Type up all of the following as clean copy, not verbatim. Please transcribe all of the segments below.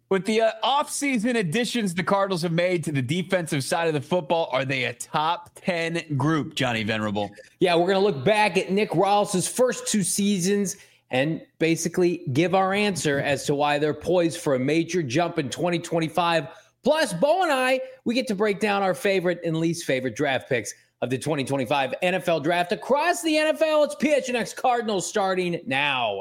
With the offseason additions the Cardinals have made to the defensive side of the football, are they a top 10 group, Johnny Venerable? Yeah, we're going to look back at Nick Rallis' first 2 seasons and basically give our answer as to why they're poised for a major jump in 2025. Plus, Bo and I, we get to break down our favorite and least favorite draft picks of the 2025 NFL Draft across the NFL. It's PHNX Cardinals starting now.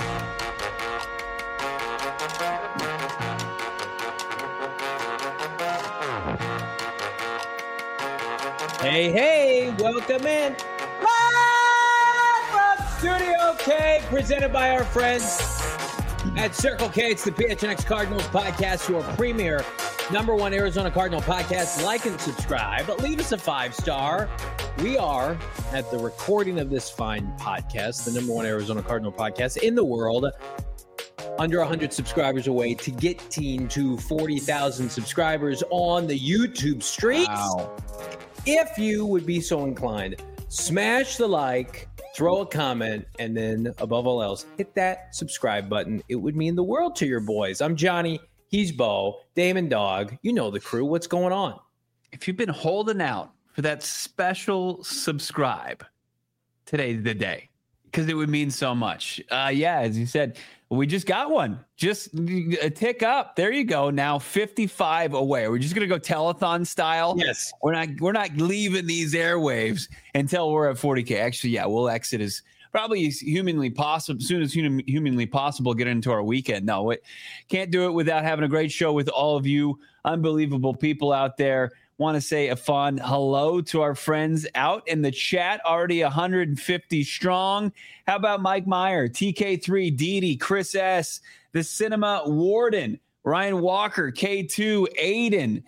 Hey, welcome in. Live from Studio K, presented by our friends at Circle K. It's the PHNX Cardinals podcast, your premier #1 Arizona Cardinal podcast. Like and subscribe. Leave us a 5-star. We are, at the recording of this fine podcast, the #1 Arizona Cardinal podcast in the world, under 100 subscribers away to getting to 40,000 subscribers on the YouTube streets. Wow. If you would be so inclined, smash the like, throw a comment, and then, above all else, hit that subscribe button. It would mean the world to your boys. I'm Johnny. He's Bo. Damon Dog. You know the crew. What's going on? If you've been holding out for that special subscribe, today's the day, because it would mean so much. Yeah, as you said, we just got one. Just a tick up. There you go. Now 55 away. We're just gonna go telethon style. Yes. We're not leaving these airwaves until we're at 40K. Actually, yeah, we'll exit as probably as humanly possible, soon as humanly possible, get into our weekend. No, it can't do it without having a great show with all of you unbelievable people out there. Want to say a fun hello to our friends out in the chat, already 150 strong. How about Mike Meyer, TK3, Didi, Chris S, the Cinema Warden, Ryan Walker, K2, Aiden,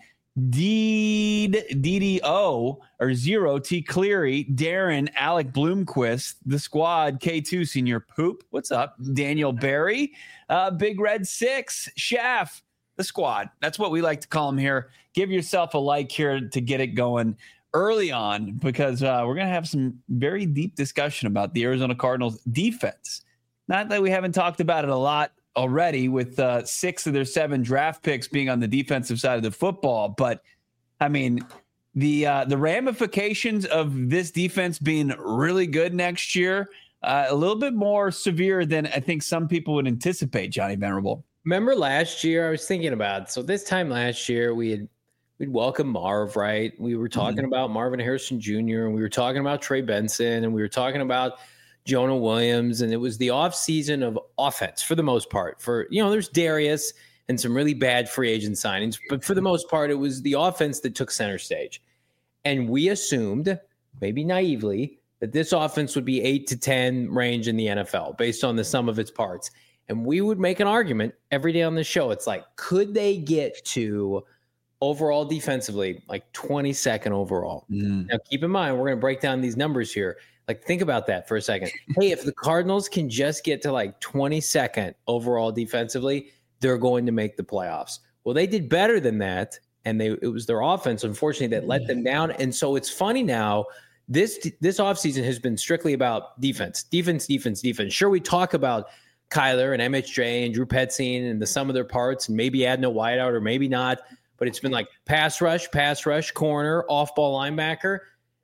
DDO or Zero, T Cleary, Darren, Alec Bloomquist, the squad, K2, Senior Poop, what's up? Daniel Barry, Big Red 6, Shaft, the squad. That's what we like to call them here. Give yourself a like here to get it going early on, because we're going to have some very deep discussion about the Arizona Cardinals defense. Not that we haven't talked about it a lot already, with 6 of their 7 draft picks being on the defensive side of the football. But I mean, the ramifications of this defense being really good next year, a little bit more severe than I think some people would anticipate, Johnny Venerable. Remember last year, I was thinking about, so this time last year, we'd welcome Marv, right? We were talking about Marvin Harrison Jr., and we were talking about Trey Benson, and we were talking about Jonah Williams, and it was the offseason of offense for the most part. There's Darius and some really bad free agent signings, but for the most part, it was the offense that took center stage. And we assumed, maybe naively, that this offense would be 8 to 10 range in the NFL based on the sum of its parts. And we would make an argument every day on the show. It's like, could they get to overall defensively, like 22nd overall? Now, keep in mind, we're going to break down these numbers here. Like, think about that for a second. Hey, if the Cardinals can just get to like 22nd overall defensively, they're going to make the playoffs. Well, they did better than that, and it was their offense, unfortunately, that let them down. And so it's funny now, this offseason has been strictly about defense. Sure, we talk about Kyler and MHJ and Drew Petzing and the sum of their parts, and maybe adding a wideout or maybe not. But it's been like pass rush, corner, off-ball linebacker.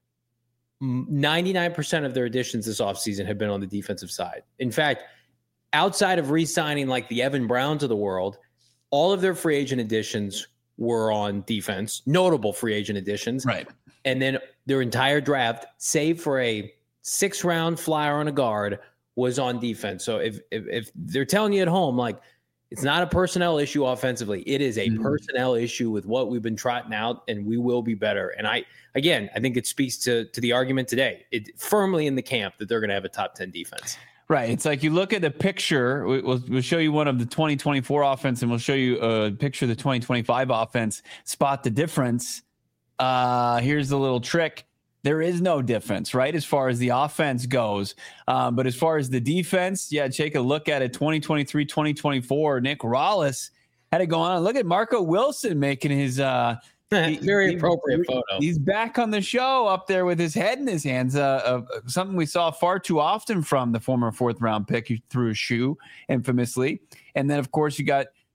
99% of their additions this offseason have been on the defensive side. In fact, outside of re-signing like the Evan Browns of the world, all of their free agent additions were on defense, notable free agent additions. Right. And then their entire draft, save for a 6th-round flyer on a guard, was on defense. So if they're telling you at home, like, it's not a personnel issue offensively, it is a personnel issue with what we've been trotting out, and we will be better. And I think it speaks to the argument today. It firmly in the camp that they're going to have a top 10 defense. Right. It's like you look at the picture. We'll show you one of the 2024 offense, and we'll show you a picture of the 2025 offense. Spot the difference. Here's the little trick. There is no difference, right, as far as the offense goes. But as far as the defense, yeah, take a look at it. 2023, 2024, Nick Rallis had it going on. Look at Marco Wilson making his very appropriate photo. He's back on the show up there with his head in his hands. Something we saw far too often from the former 4th-round pick. He threw a shoe infamously. And then, of course, you got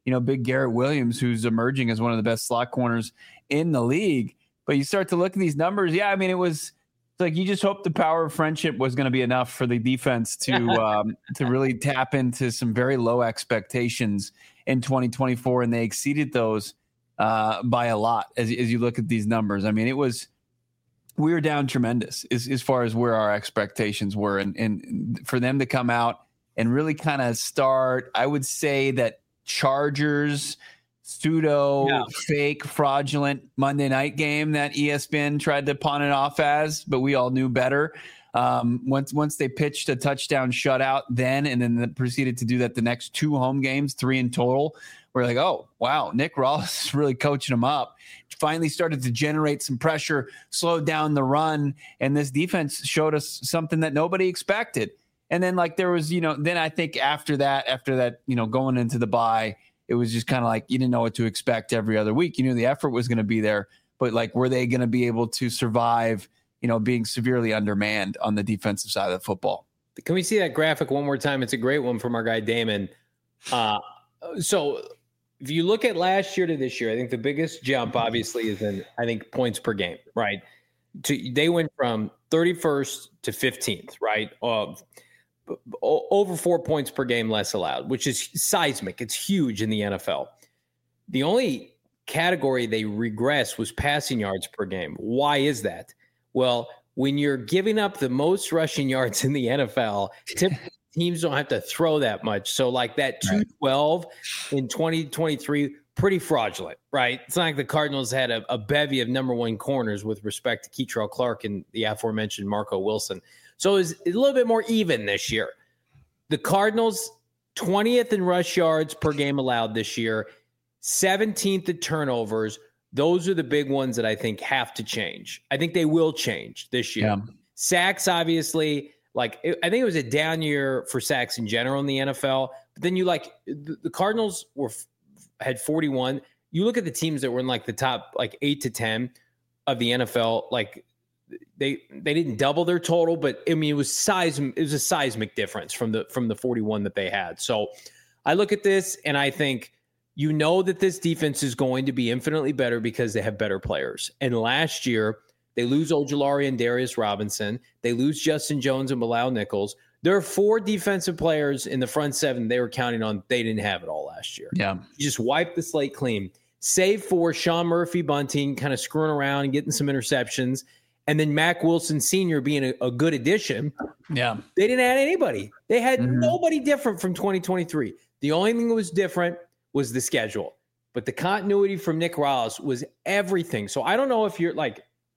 big Garrett Williams, who's emerging as one of the best slot corners in the league. But you start to look at these numbers. Yeah, I mean, it's like you just hope the power of friendship was going to be enough for the defense to really tap into some very low expectations in 2024, and they exceeded those by a lot as you look at these numbers. I mean, we were down tremendous as far as where our expectations were, and for them to come out and really kind of start, I would say that Chargers fake fraudulent Monday night game that ESPN tried to pawn it off as, but we all knew better. Once they pitched a touchdown shutout and then proceeded to do that the next 2 home games, 3 in total, we're like, oh, wow, Nick Rawls is really coaching them up. Finally started to generate some pressure, slowed down the run, and this defense showed us something that nobody expected. And then there was, then I think after that, going into the bye, it was just kind of like you didn't know what to expect every other week. You knew the effort was going to be there, but were they going to be able to survive, being severely undermanned on the defensive side of the football? Can we see that graphic one more time? It's a great one from our guy Damon. So if you look at last year to this year, I think the biggest jump obviously is in, I think, points per game, right? They went from 31st to 15th, right? Over 4 points per game less allowed, which is seismic. It's huge in the NFL. The only category they regressed was passing yards per game. Why is that? Well, when you're giving up the most rushing yards in the NFL, typically teams don't have to throw that much. So that 212 in 2023, pretty fraudulent, right? It's not like the Cardinals had a bevy of number 1 corners with respect to Keitrell Clark and the aforementioned Marco Wilson. So it was a little bit more even this year. The Cardinals, 20th in rush yards per game allowed this year, 17th in turnovers. Those are the big ones that I think have to change. I think they will change this year. Yeah. Sacks, obviously, I think it was a down year for sacks in general in the NFL. But then the Cardinals had 41. You look at the teams that were in the top 8 to 10 of the NFL, they didn't double their total, but I mean it was a seismic difference from the 41 that they had. So I look at this and I think that this defense is going to be infinitely better because they have better players. And last year they lose Ojulari and Darius Robinson. They lose Justin Jones and Bilal Nichols. There are 4 defensive players in the front 7 they were counting on. They didn't have it all last year. Yeah, you just wiped the slate clean, save for Sean Murphy-Bunting kind of screwing around and getting some interceptions. And then Mack Wilson Sr. being a good addition. Yeah. They didn't add anybody. They had nobody different from 2023. The only thing that was different was the schedule. But the continuity from Nick Rawls was everything. So I don't know if you're an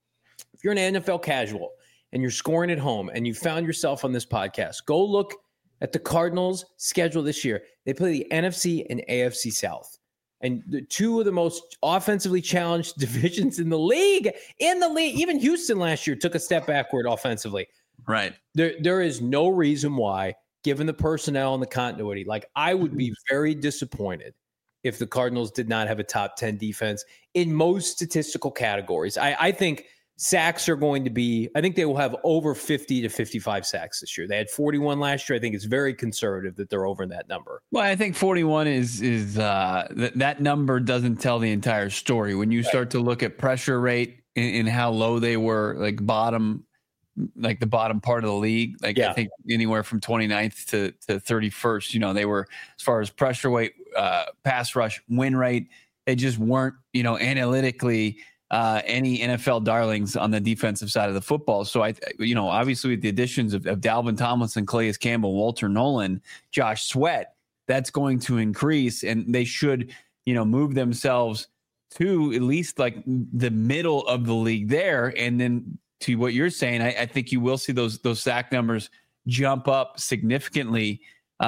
NFL casual and you're scoring at home and you found yourself on this podcast, go look at the Cardinals' schedule this year. They play the NFC and AFC South. And the 2 of the most offensively challenged divisions in the league. Even Houston last year took a step backward offensively. Right. There is no reason why, given the personnel and the continuity, I would be very disappointed if the Cardinals did not have a top 10 defense in most statistical categories. I think sacks are going to be, I think they will have over 50 to 55 sacks this year. They had 41 last year. I think it's very conservative that they're over in that number. Well, I think 41 is that number doesn't tell the entire story. When you start to look at pressure rate and how low they were, the bottom part of the league, I think anywhere from 29th to 31st, they were, as far as pressure rate, pass rush, win rate, they just weren't, analytically any NFL darlings on the defensive side of the football. So obviously with the additions of Dalvin Tomlinson, Calais Campbell, Walter Nolan, Josh Sweat, that's going to increase, and they should, move themselves to at least the middle of the league there. And then to what you're saying, I think you will see those sack numbers jump up significantly.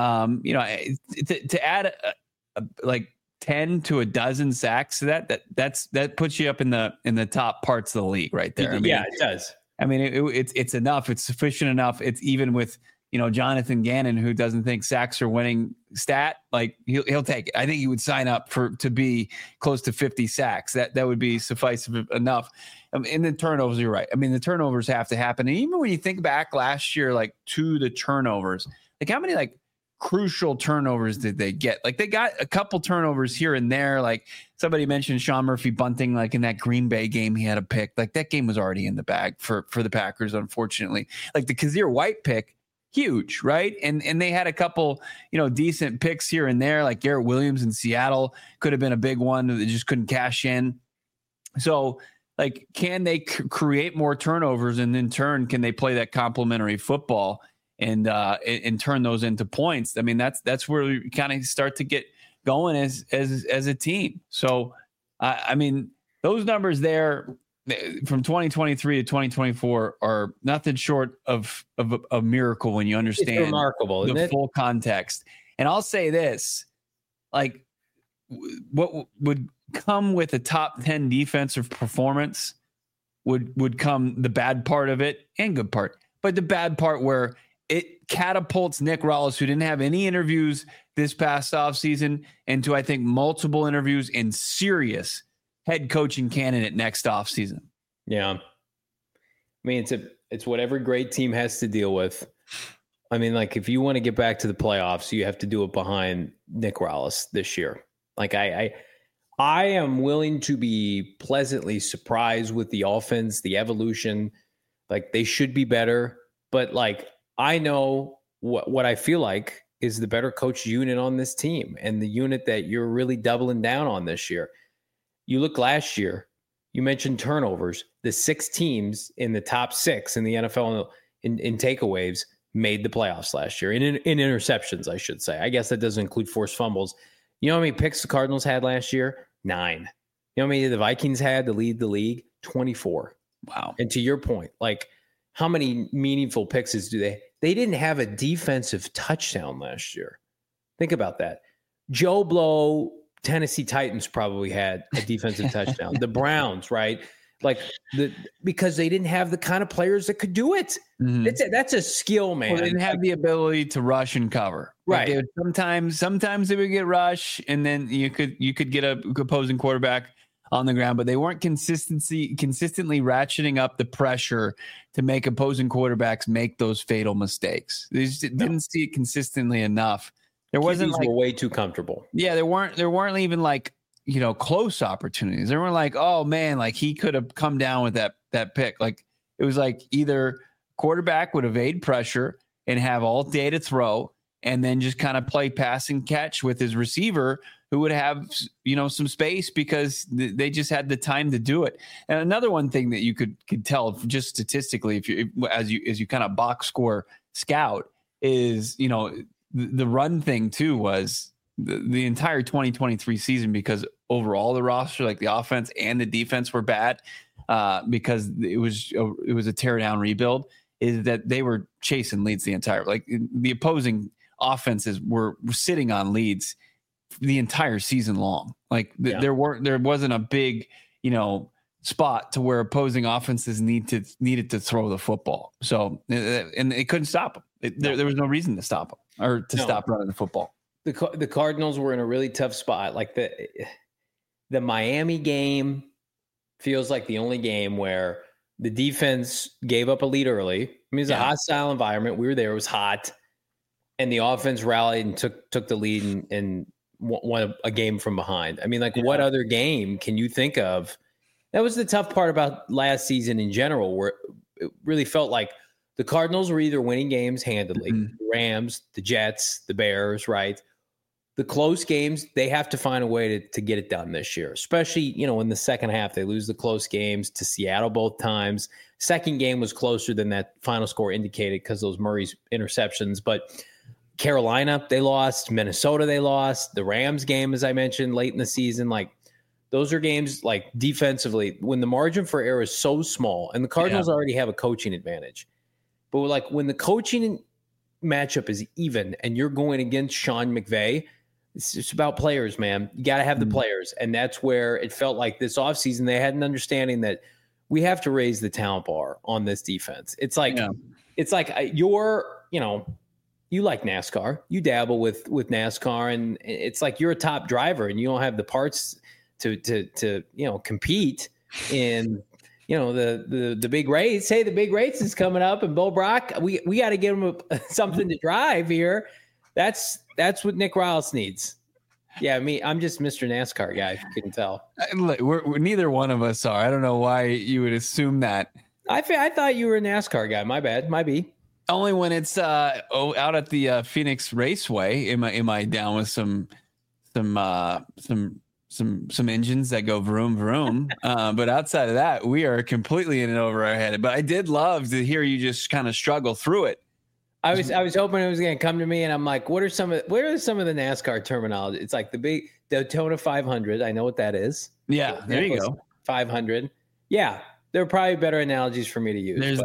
To add 10 to a dozen sacks to that puts you up in the top parts of the league right there. It does. I mean, it's enough. It's sufficient enough. It's even with, Jonathan Gannon, who doesn't think sacks are winning stat, he'll take it. I think he would sign up to be close to 50 sacks. That would be suffice enough. And the turnovers, you're right. I mean, the turnovers have to happen. And even when you think back last year, to the turnovers, how many crucial turnovers did they get? Like they got a couple turnovers here and there. Like somebody mentioned Sean Murphy bunting, like in that Green Bay game, he had a pick. Like that game was already in the bag for the Packers, unfortunately. Like the Kazir White pick, huge, right? And they had a couple, decent picks here and there. Like Garrett Williams in Seattle could have been a big one that they just couldn't cash in. So like, can they create more turnovers, and in turn, can they play that complementary football and turn those into points? I mean, that's where we kind of start to get going as a team. So, I mean, those numbers there from 2023 to 2024 are nothing short of a miracle when you understand it's remarkable, the full context. And I'll say this, like, what would come with a top 10 defensive performance would come the bad part of it and good part. But the bad part where it catapults Nick Rallis, who didn't have any interviews this past offseason, into, I think, multiple interviews in serious head coaching candidate next offseason. Yeah. I mean, it's what every great team has to deal with. I mean, like, if you want to get back to the playoffs, you have to do it behind Nick Rallis this year. Like, I am willing to be pleasantly surprised with the offense, the evolution. Like, they should be better. But, like, I know what I feel like is the better coach unit on this team, and the unit that you're really doubling down on this year. You look last year, you mentioned turnovers. The 6 teams in the top 6 in the NFL in takeaways made the playoffs last year. In interceptions, I should say. I guess that doesn't include forced fumbles. You know how many picks the Cardinals had last year? 9. You know how many the Vikings had to lead the league? 24. Wow. And to your point, like, how many meaningful picks do they? They didn't have a defensive touchdown last year. Think about that. Joe Blow, Tennessee Titans probably had a defensive touchdown. The Browns, right? Like, because they didn't have the kind of players that could do it. Mm-hmm. That's a skill, man. Well, they didn't have the ability to rush and cover. Right. Like sometimes they would get rush, and then you could get a opposing quarterback on the ground, but they weren't consistently ratcheting up the pressure to make opposing quarterbacks make those fatal mistakes. They just didn't see it consistently enough. There wasn't were way too comfortable. Yeah, there weren't even like, close opportunities. They weren't like, oh man, like he could have come down with that pick. Like it was like either quarterback would evade pressure and have all day to throw, and then just kind of play pass and catch with his receiver, who would have, some space because they just had the time to do it. And another one thing that you could tell just statistically, as you kind of box score scout, is, the run thing too was the entire 2023 season, because overall the roster, like the offense and the defense, were bad because it was a tear down rebuild, is that they were chasing leads the entire, like the opposing offenses were sitting on leads the entire season long. Like there wasn't a big, spot to where opposing offenses needed to throw the football. So, and they couldn't stop them. There was no reason to stop them or to stop running the football. The Cardinals were in a really tough spot. Like the Miami game feels like the only game where the defense gave up a lead early. I mean, it's a hostile environment. We were there. It was hot. And the offense rallied and took the lead and won a game from behind. I mean, what other game can you think of? That was the tough part about last season in general, where it really felt like the Cardinals were either winning games handedly, the Rams, the Jets, the Bears, right? The close games, they have to find a way to get it done this year, especially, in the second half. They lose the close games to Seattle both times. Second game was closer than that final score indicated because those Murray's interceptions. But Carolina, they lost. Minnesota, they lost. The Rams game, as I mentioned, late in the season, those are games, defensively, when the margin for error is so small, and the Cardinals already have a coaching advantage. But when the coaching matchup is even and you're going against Sean McVay, it's about players, man. You got to have the players. And that's where it felt like this offseason they had an understanding that we have to raise the talent bar on this defense. It's like you like NASCAR. You dabble with NASCAR, and it's like you're a top driver and you don't have the parts to compete in the big race. Hey, the big race is coming up, and Bo Brock, we got to give him something to drive here. That's what Nick Riles needs. Yeah, I'm just Mr. NASCAR guy, if you couldn't tell. We're neither one of us are. I don't know why you would assume that. I thought you were a NASCAR guy. My bad. Might be. Only when it's out at the Phoenix Raceway am I down with some engines that go vroom vroom. But outside of that, we are completely in and over our head. But I did love to hear you just kind of struggle through it. I was hoping it was going to come to me, and I'm like, what are some of the NASCAR terminology? It's like the Daytona 500. I know what that is. Yeah, there you go. 500. Yeah, there are probably better analogies for me to use. There's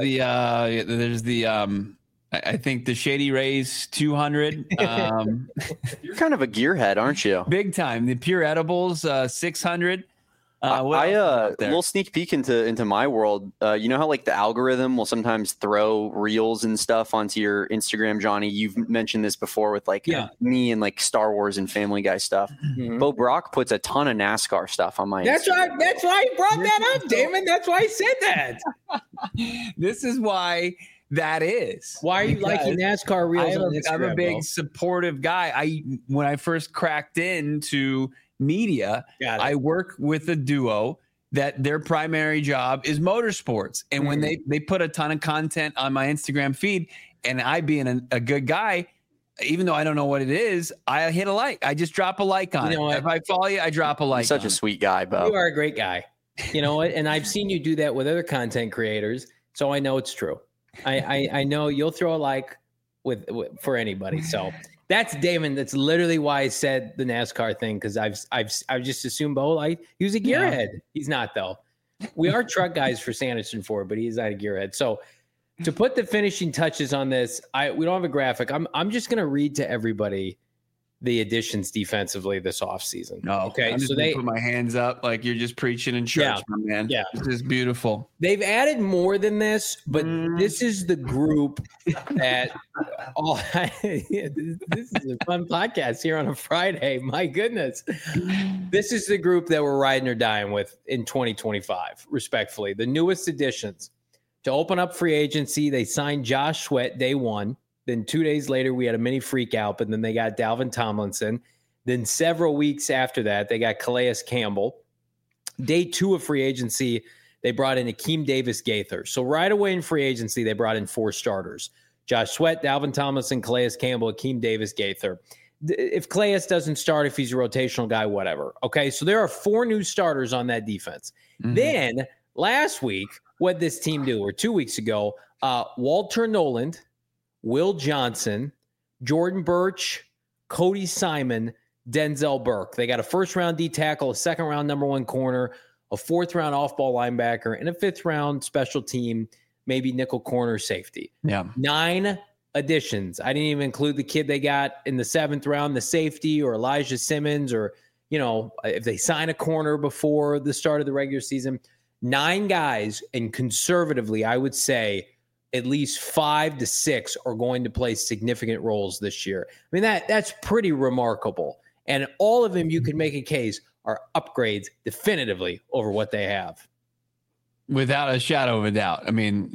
I think the Shady Rays 200. You're kind of a gearhead, aren't you? Big time. The Pure Edibles 600. Little sneak peek into my world. You know how like the algorithm will sometimes throw reels and stuff onto your Instagram, Johnny. You've mentioned this before with like me and like Star Wars and Family Guy stuff. Mm-hmm. Bo Brock puts a ton of NASCAR stuff on my Instagram. That's why I brought that up, Damon. That's why I said that. This is why that is. Why are you liking NASCAR reels on Instagram? I'm a big supportive guy. When I first cracked into media, I work with a duo that their primary job is motorsports. And when they put a ton of content on my Instagram feed, and I being a good guy, even though I don't know what it is, I hit a like. I just drop a like on it. If I follow you, I drop a like. You're such a sweet guy, Bo. You are a great guy. You know what? And I've seen you do that with other content creators, so I know it's true. I know you'll throw a like for anybody. So that's Damon. That's literally why I said the NASCAR thing, because I've just assumed Bo like he was a gearhead. He's not though. We are truck guys for Sanderson Ford, but he's not a gearhead. So to put the finishing touches on this, we don't have a graphic. I'm just gonna read to everybody the additions defensively this offseason. Okay. I'm just so put my hands up like you're just preaching in church, my man. Yeah. This is beautiful. They've added more than this, but this is the group that this is a fun podcast here on a Friday. My goodness. This is the group that we're riding or dying with in 2025, respectfully. The newest additions to open up free agency. They signed Josh Sweat day one. Then 2 days later, we had a mini freak out, but then they got Dalvin Tomlinson. Then several weeks after that, they got Calais Campbell. Day two of free agency, they brought in Akeem Davis-Gaither. So right away in free agency, they brought in 4 starters. Josh Sweat, Dalvin Tomlinson, Calais Campbell, Akeem Davis-Gaither. If Calais doesn't start, if he's a rotational guy, whatever. Okay, so there are 4 new starters on that defense. Mm-hmm. Then last week, what did this team do? Or 2 weeks ago, Walter Noland, Will Johnson, Jordan Birch, Cody Simon, Denzel Burke. They got a first-round D tackle, a second-round number 1 corner, a fourth-round off-ball linebacker, and a fifth-round special team, maybe nickel corner safety. Yeah. 9 additions. I didn't even include the kid they got in the 7th round, the safety, or Elijah Simmons, or, you know, if they sign a corner before the start of the regular season. 9 guys, and conservatively, I would say, at least 5 to 6 are going to play significant roles this year. I mean, that's pretty remarkable. And all of them, you could make a case, are upgrades definitively over what they have. Without a shadow of a doubt. I mean,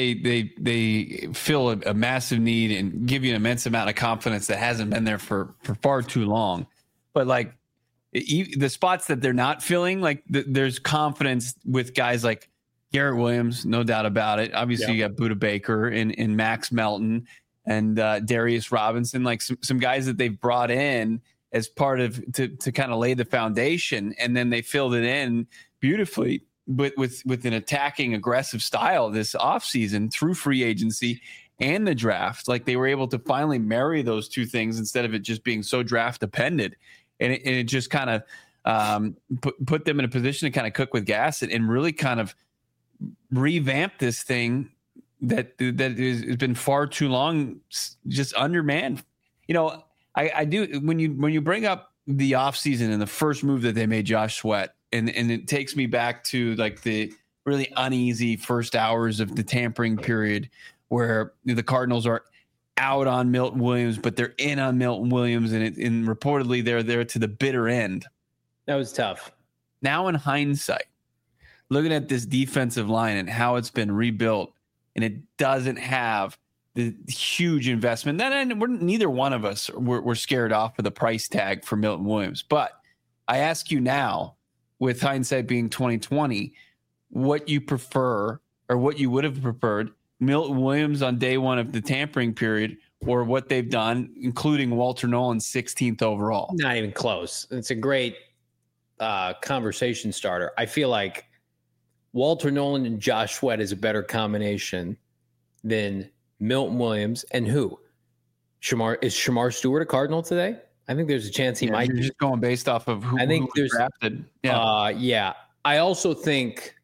they fill a massive need and give you an immense amount of confidence that hasn't been there for far too long. But like the spots that they're not filling, like there's confidence with guys like Garrett Williams, no doubt about it. Obviously, you got Budda Baker and Max Melton and Darius Robinson, like some guys that they've brought in as part of to kind of lay the foundation, and then they filled it in beautifully, but with an attacking, aggressive style this offseason through free agency and the draft. Like they were able to finally marry those two things instead of it just being so draft dependent, and it just kind of put them in a position to kind of cook with gas and really kind of revamp this thing that has been far too long just undermanned. You know, I do when you bring up the offseason and the first move that they made, Josh Sweat, and it takes me back to like the really uneasy first hours of the tampering period where the Cardinals are out on Milton Williams, but they're in on Milton Williams, and reportedly they're there to the bitter end. That was tough. Now in hindsight, looking at this defensive line and how it's been rebuilt, and it doesn't have the huge investment. Then neither one of us were scared off of the price tag for Milton Williams. But I ask you now, with hindsight being 2020, what you prefer or what you would have preferred, Milton Williams on day one of the tampering period, or what they've done, including Walter Nolan 16th overall? Not even close. It's a great conversation starter. I feel like Walter Nolan and Josh Sweat is a better combination than Milton Williams and who? Shamar Stewart a Cardinal today? I think there's a chance he might. You're just going based off of who was drafted. Yeah. I also think,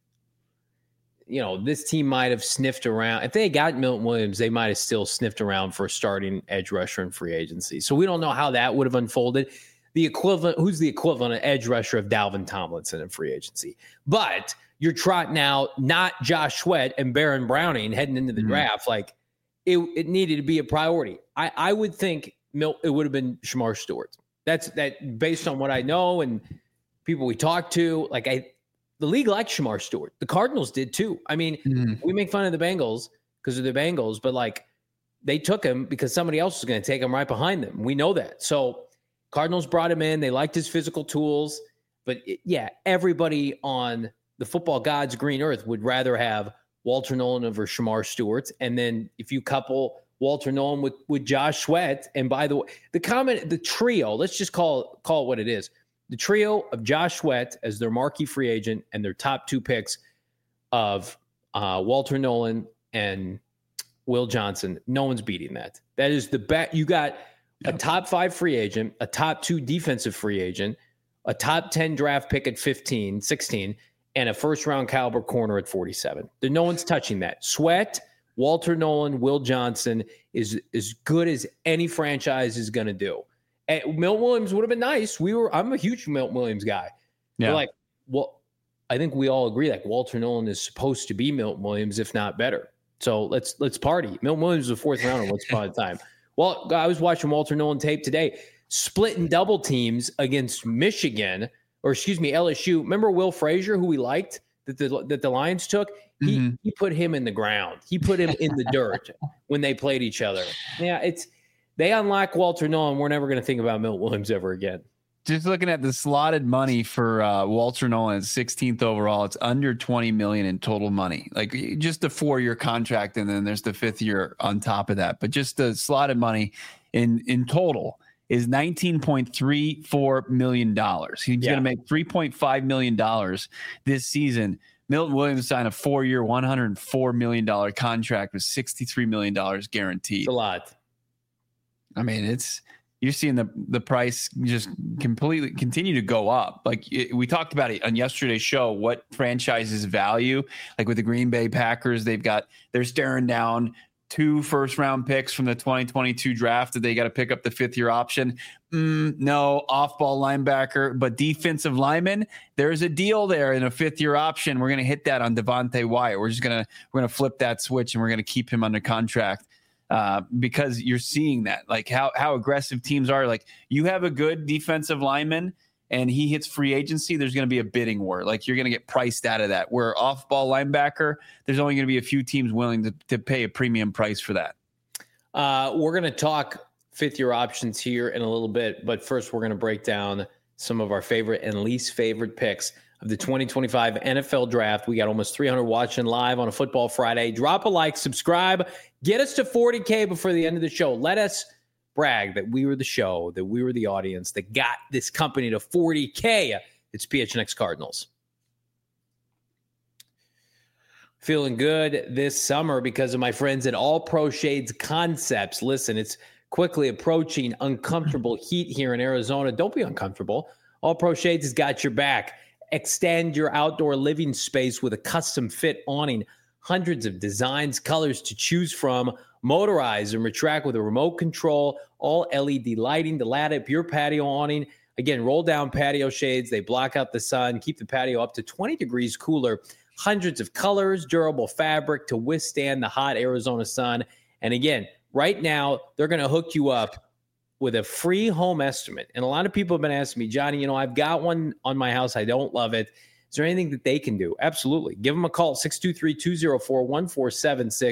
this team might have sniffed around. If they had got Milton Williams, they might have still sniffed around for a starting edge rusher in free agency. So we don't know how that would have unfolded. Who's the equivalent of edge rusher of Dalvin Tomlinson in free agency? But you're trotting out not Josh Sweat and Baron Browning heading into the draft. Like it needed to be a priority. I would think it would have been Shamar Stewart. That's based on what I know and people we talked to. The league liked Shamar Stewart. The Cardinals did too. I mean, we make fun of the Bengals because of the Bengals, but they took him because somebody else was going to take him right behind them. We know that. So Cardinals brought him in. They liked his physical tools. But everybody on the football gods green earth would rather have Walter Nolan over Shamar Stewart. And then if you couple Walter Nolan with Josh Sweat, and by the way, the trio, let's just call it what it is. The trio of Josh Sweat as their marquee free agent and their top two picks of Walter Nolan and Will Johnson. No one's beating that. That is the bet. You got a top 5 free agent, a top 2 defensive free agent, a top 10 draft pick at 16, and a first-round caliber corner at 47. No one's touching that. Sweat, Walter Nolan, Will Johnson is as good as any franchise is going to do. And Milton Williams would have been nice. I'm a huge Milton Williams guy. Yeah. I think we all agree Walter Nolan is supposed to be Milton Williams, if not better. So let's party. Milton Williams was a 4th rounder once upon a time. Well, I was watching Walter Nolan tape today, splitting double teams against LSU. Remember Will Frazier, who we liked that the Lions took? He put him in the ground. He put him in the dirt when they played each other. Yeah, they unlock Walter Nolan. We're never going to think about Milton Williams ever again. Just looking at the slotted money for Walter Nolan, 16th overall, it's under $20 million in total money. Just a 4-year contract, and then there's the 5th year on top of that. But just the slotted money in total is $19.34 million. He's going to make $3.5 million this season. Milton Williams signed a 4-year, $104 million contract with $63 million guaranteed. It's a lot. I mean, you're seeing the price just completely continue to go up. We talked about it on yesterday's show, what franchises value, with the Green Bay Packers, they're staring down 2 first-round picks from the 2022 draft that they got to pick up the 5th-year option. No, off-ball linebacker, but defensive lineman, there's a deal there in a 5th-year option. We're going to hit that on Devontae Wyatt. We're going to flip that switch, and we're going to keep him under contract. Because you're seeing that, how aggressive teams are. You have a good defensive lineman and he hits free agency, there's going to be a bidding war. You're going to get priced out of that. Where off-ball linebacker, there's only going to be a few teams willing to pay a premium price for that. We're going to talk 5th-year options here in a little bit, but first we're going to break down some of our favorite and least favorite picks of the 2025 NFL Draft. We got almost 300 watching live on a Football Friday. Drop a like, subscribe, get us to 40K before the end of the show. Let us brag that we were the show, that we were the audience that got this company to 40K. It's PHNX Cardinals. Feeling good this summer because of my friends at All Pro Shades Concepts. Listen, it's quickly approaching uncomfortable heat here in Arizona. Don't be uncomfortable. All Pro Shades has got your back. Extend your outdoor living space with a custom fit awning. Hundreds of designs, colors to choose from. Motorize and retract with a remote control. All LED lighting to light up your patio awning. Again, roll down patio shades. They block out the sun, keep the patio up to 20 degrees cooler. Hundreds of colors, durable fabric to withstand the hot Arizona sun. And again, right now, they're going to hook you up with a free home estimate. And a lot of people have been asking me, Johnny, I've got one on my house. I don't love it. Is there anything that they can do? Absolutely. Give them a call, 623-204-1476,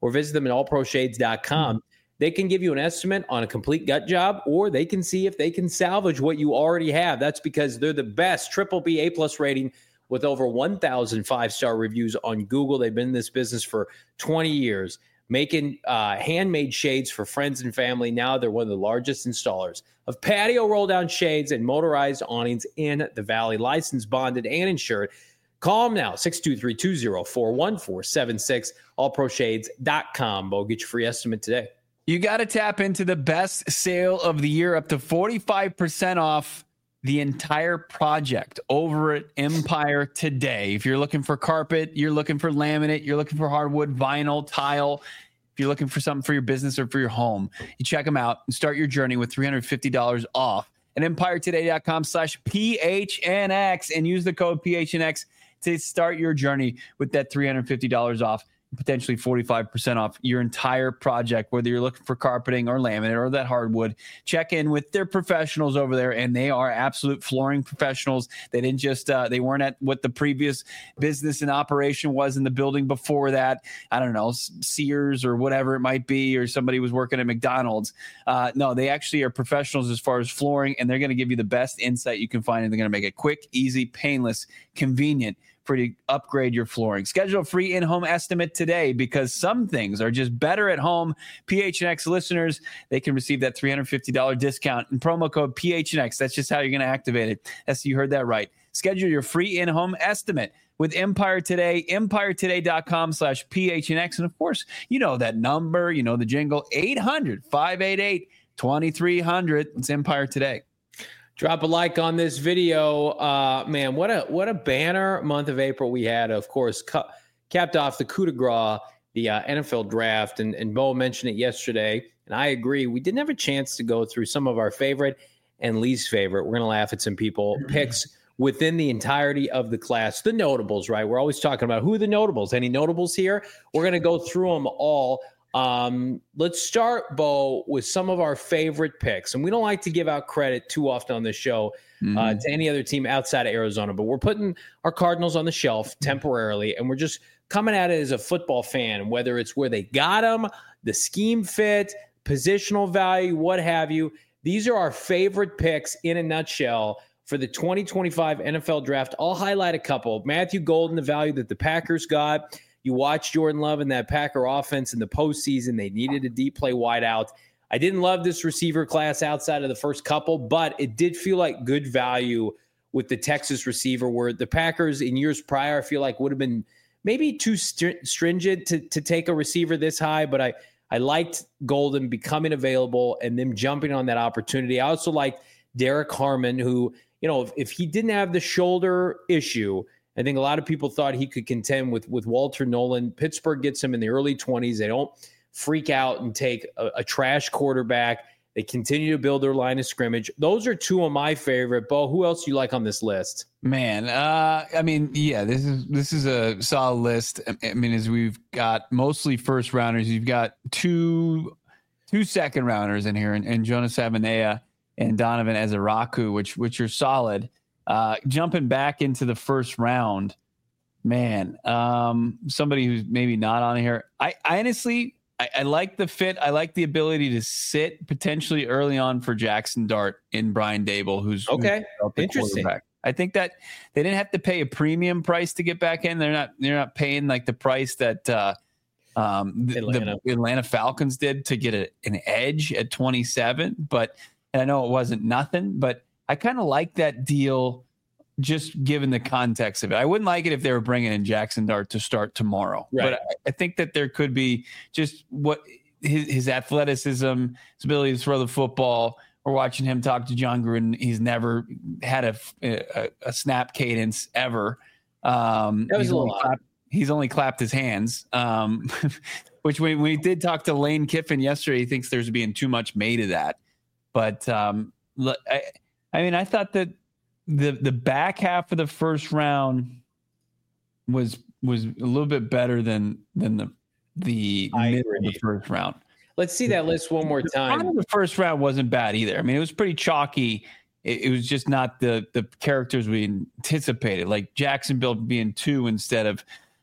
or visit them at allproshades.com. They can give you an estimate on a complete gut job, or they can see if they can salvage what you already have. That's because they're the best BBB A+ rating with over 1,000 5-star reviews on Google. They've been in this business for 20 years, making handmade shades for friends and family. Now they're one of the largest installers of patio roll-down shades and motorized awnings in the Valley. Licensed, bonded, and insured. Call them now, 623-204-1476, allproshades.com. Bo, get your free estimate today. You got to tap into the best sale of the year, up to 45% off the entire project over at Empire Today. If you're looking for carpet, you're looking for laminate, you're looking for hardwood, vinyl, tile, if you're looking for something for your business or for your home, you check them out and start your journey with $350 off at empiretoday.com/PHNX and use the code PHNX to start your journey with that $350 off. Potentially 45% off your entire project, whether you're looking for carpeting or laminate or that hardwood. Check in with their professionals over there, and they are absolute flooring professionals. They didn't just they weren't at what the previous business and operation was in the building before that. I don't know, Sears or whatever it might be, or somebody was working at McDonald's. No, they actually are professionals as far as flooring, and they're going to give you the best insight you can find, and they're going to make it quick, easy, painless, convenient for you to upgrade your flooring. Schedule a free in-home estimate today, because some things are just better at home. PHNX listeners, they can receive that $350 discount and promo code PHNX. That's just how you're going to activate it. You heard that right. Schedule your free in-home estimate with Empire Today, empiretoday.com/PHNX. And of course, you know that number, you know the jingle, 800-588-2300. It's Empire Today. Drop a like on this video. Man, what a banner month of April we had. Of course, capped off the coup de grace, the NFL draft. And Bo mentioned it yesterday, and I agree. We didn't have a chance to go through some of our favorite and least favorite. We're going to laugh at some people. Picks within the entirety of the class. The notables, right? We're always talking about who are the notables. Any notables here? We're going to go through them all. Let's start, Bo, with some of our favorite picks. And we don't like to give out credit too often on this show to any other team outside of Arizona, but we're putting our Cardinals on the shelf temporarily, and we're just coming at it as a football fan, whether it's where they got them, the scheme fit, positional value, what have you. These are our favorite picks in a nutshell for the 2025 NFL draft. I'll highlight a couple. Matthew Golden, the value that the Packers got. You watch Jordan Love and that Packer offense in the postseason. They needed a deep play wideout. I didn't love this receiver class outside of the first couple, but it did feel like good value with the Texas receiver, where the Packers in years prior, I feel like would have been maybe too stringent to take a receiver this high. But I liked Golden becoming available and them jumping on that opportunity. I also liked Derek Harmon, who, you know, if he didn't have the shoulder issue, I think a lot of people thought he could contend with Walter Nolan. Pittsburgh gets him in the early 20s. They don't freak out and take a trash quarterback. They continue to build their line of scrimmage. Those are two of my favorite. Bo, who else do you like on this list? Man, I mean, yeah, this is a solid list. I mean, as we've got mostly first rounders, you've got two second rounders in here, and Jonas Avenea and Donovan Ezeraku, which are solid. Jumping back into the first round, man, somebody who's maybe not on here. I honestly like the fit. I like the ability to sit potentially early on for Jackson Dart in Brian Dable, who's interesting. I think that they didn't have to pay a premium price to get back in. They're not paying like the price that the Atlanta Falcons did to get an edge at 27. But and I know it wasn't nothing, but I kind of like that deal, just given the context of it. I wouldn't like it if they were bringing in Jackson Dart to start tomorrow. Right. But I think that there could be just what his athleticism, his ability to throw the football. We're watching him talk to John Gruden. He's never had a snap cadence ever. He's only clapped his hands, which when we did talk to Lane Kiffin yesterday, he thinks there's being too much made of that. But I mean, I thought that the back half of the first round was a little bit better than the middle of the first round. Let's see that list one more time. The first round wasn't bad either. I mean, it was pretty chalky. It was just not the characters we anticipated, like Jacksonville being 2 instead of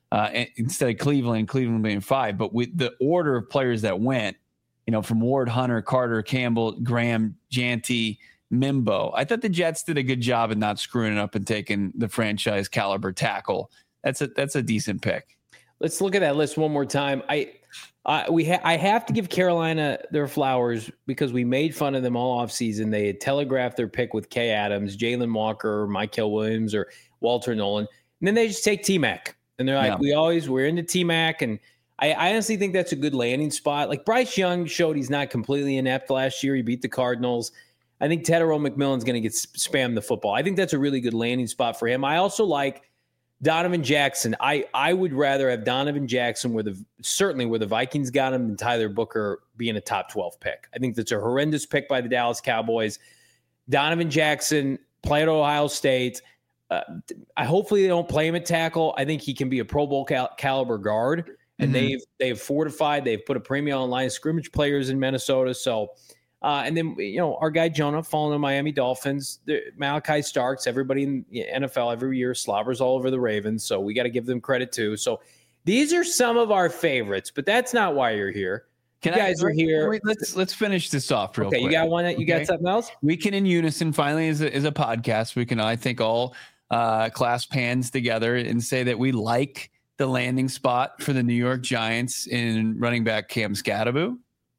instead of Cleveland being 5. But with the order of players that went, from Ward, Hunter, Carter, Campbell, Graham, Janty, Mimbo, I thought the Jets did a good job of not screwing it up and taking the franchise caliber tackle. That's a decent pick. Let's look at that list one more time. I have to give Carolina their flowers because we made fun of them all offseason. They had telegraphed their pick with Kay Adams, Jalen Walker, Mykel Williams, or Walter Nolan. And then they just take T-Mac. And they're like, we're into T-Mac. And I honestly think that's a good landing spot. Like Bryce Young showed he's not completely inept last year. He beat the Cardinals. I think Tedero McMillan's going to get spammed the football. I think that's a really good landing spot for him. I also like Donovan Jackson. I would rather have Donovan Jackson where the Vikings got him than Tyler Booker being a top 12 pick. I think that's a horrendous pick by the Dallas Cowboys. Donovan Jackson, play at Ohio State. Hopefully they don't play him at tackle. I think he can be a Pro Bowl caliber guard. And they've fortified. They've put a premium on line of scrimmage players in Minnesota. So, and then, our guy Jonah falling to Miami Dolphins, Malachi Starks, everybody in the NFL every year slobbers all over the Ravens. So we got to give them credit too. So these are some of our favorites, but that's not why you're here. You guys are here. Wait, let's finish this off real quick. You got one? You got something else? We can in unison finally is a podcast. We can, I think, all clasp hands together and say that we like the landing spot for the New York Giants in running back Cam Skattebo.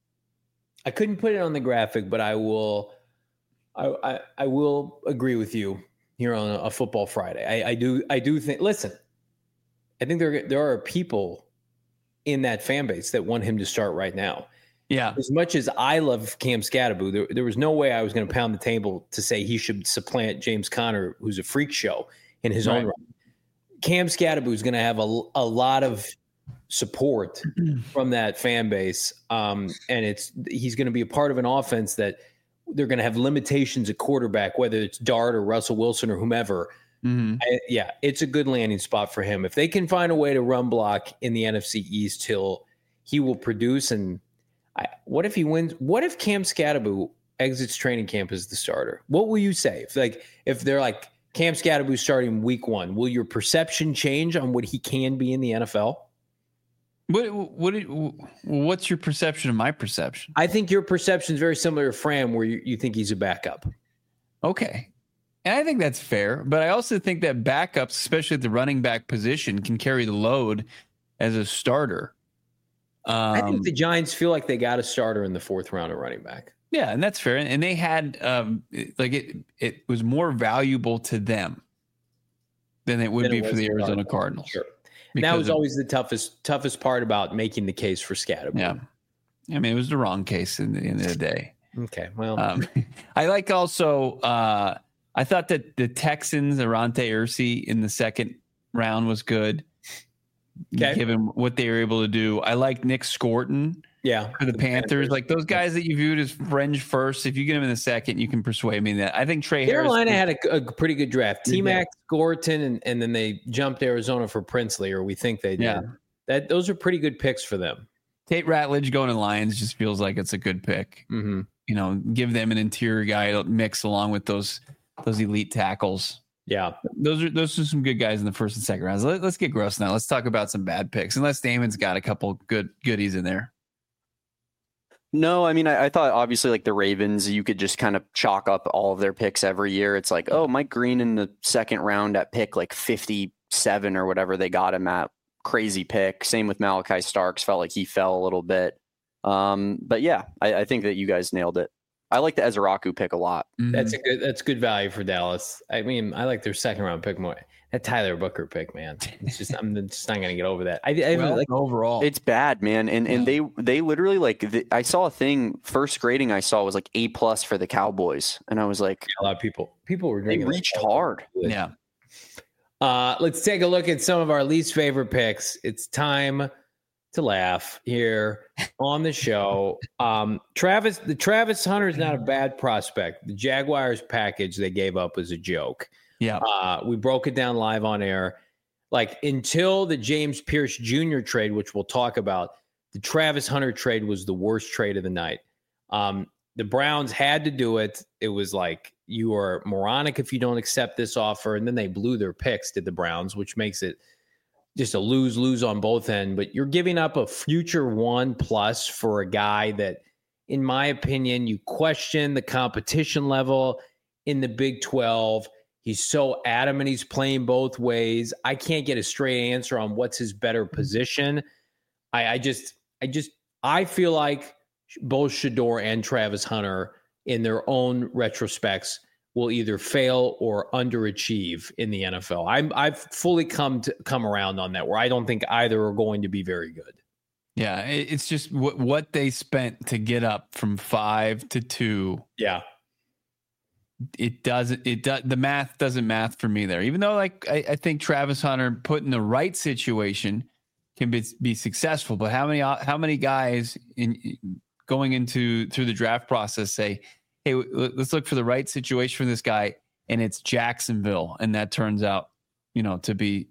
I couldn't put it on the graphic, but I will. I will agree with you here on a Football Friday. I do think. Listen, I think there are people in that fan base that want him to start right now. Yeah. As much as I love Cam Skattebo, there was no way I was going to pound the table to say he should supplant James Conner, who's a freak show in his own right. Cam Skattebo is going to have a lot of support from that fan base. And he's going to be a part of an offense that they're going to have limitations at quarterback, whether it's Dart or Russell Wilson or whomever. It's a good landing spot for him. If they can find a way to run block in the NFC East, he will produce. And what if he wins? What if Cam Skattebo exits training camp as the starter? What will you say? If they're like, Cam Skattebo starting week 1, will your perception change on what he can be in the NFL? What's your perception of my perception? I think your perception is very similar to Fran, where you think he's a backup. Okay. And I think that's fair, but I also think that backups, especially at the running back position, can carry the load as a starter. I think the Giants feel like they got a starter in the 4th round of running back. Yeah, and that's fair. And they had it was more valuable to them than it would be for the Arizona Cardinals. Sure. And that was always the toughest part about making the case for Skattebo. Yeah. I mean, it was the wrong case in the end of the day. Okay. Well, I like also I thought that the Texans, Arante Ursi in the 2nd round was good. Okay. Given what they were able to do. I like Nick Scorton. Yeah, for the Panthers, like those guys that you viewed as fringe first. If you get him in the 2nd, you can persuade me that. I think Trey Carolina had a pretty good draft. T-Mac, Gorton, and then they jumped Arizona for Princely, or we think they did. Yeah. Those are pretty good picks for them. Tate Ratledge going to Lions just feels like it's a good pick. Mm-hmm. Give them an interior guy to mix along with those elite tackles. Yeah, those are some good guys in the 1st and 2nd rounds. Let's get gross now. Let's talk about some bad picks. Unless Damon's got a couple goodies in there. No, I mean, I thought obviously like the Ravens, you could just kind of chalk up all of their picks every year. It's like, oh, Mike Green in the 2nd round at pick like 57 or whatever they got him at. Crazy pick. Same with Malachi Starks. Felt like he fell a little bit. But yeah, I think that you guys nailed it. I like the Ezraku pick a lot. Mm-hmm. That's good value for Dallas. I mean, I like their 2nd round pick more. That Tyler Booker pick, man. It's just I'm just not gonna get over that. Overall, it's bad, man. And they literally I saw a thing. First grading I saw was like A+ for the Cowboys, and I was like, a lot of people were drinking. They reached hard. Yeah. Let's take a look at some of our least favorite picks. It's time to laugh here on the show. Travis Hunter is not a bad prospect. The Jaguars package they gave up was a joke. Yeah. We broke it down live on air. Like until the James Pierce Jr. trade, which we'll talk about, the Travis Hunter trade was the worst trade of the night. The Browns had to do it. It was like, you are moronic if you don't accept this offer. And then they blew their picks, did the Browns, which makes it just a lose on both ends. But you're giving up a future 1+ for a guy that, in my opinion, you question the competition level in the Big 12. He's so adamant he's playing both ways. I can't get a straight answer on what's his better position. I feel like both Shedeur and Travis Hunter, in their own retrospects, will either fail or underachieve in the NFL. I've fully come around on that, where I don't think either are going to be very good. Yeah, it's just what they spent to get up from 5 to 2. Yeah. The math doesn't math for me there. Even though I think Travis Hunter put in the right situation can be successful, but how many guys going through the draft process say, hey, let's look for the right situation for this guy, and it's Jacksonville, and that turns out, to be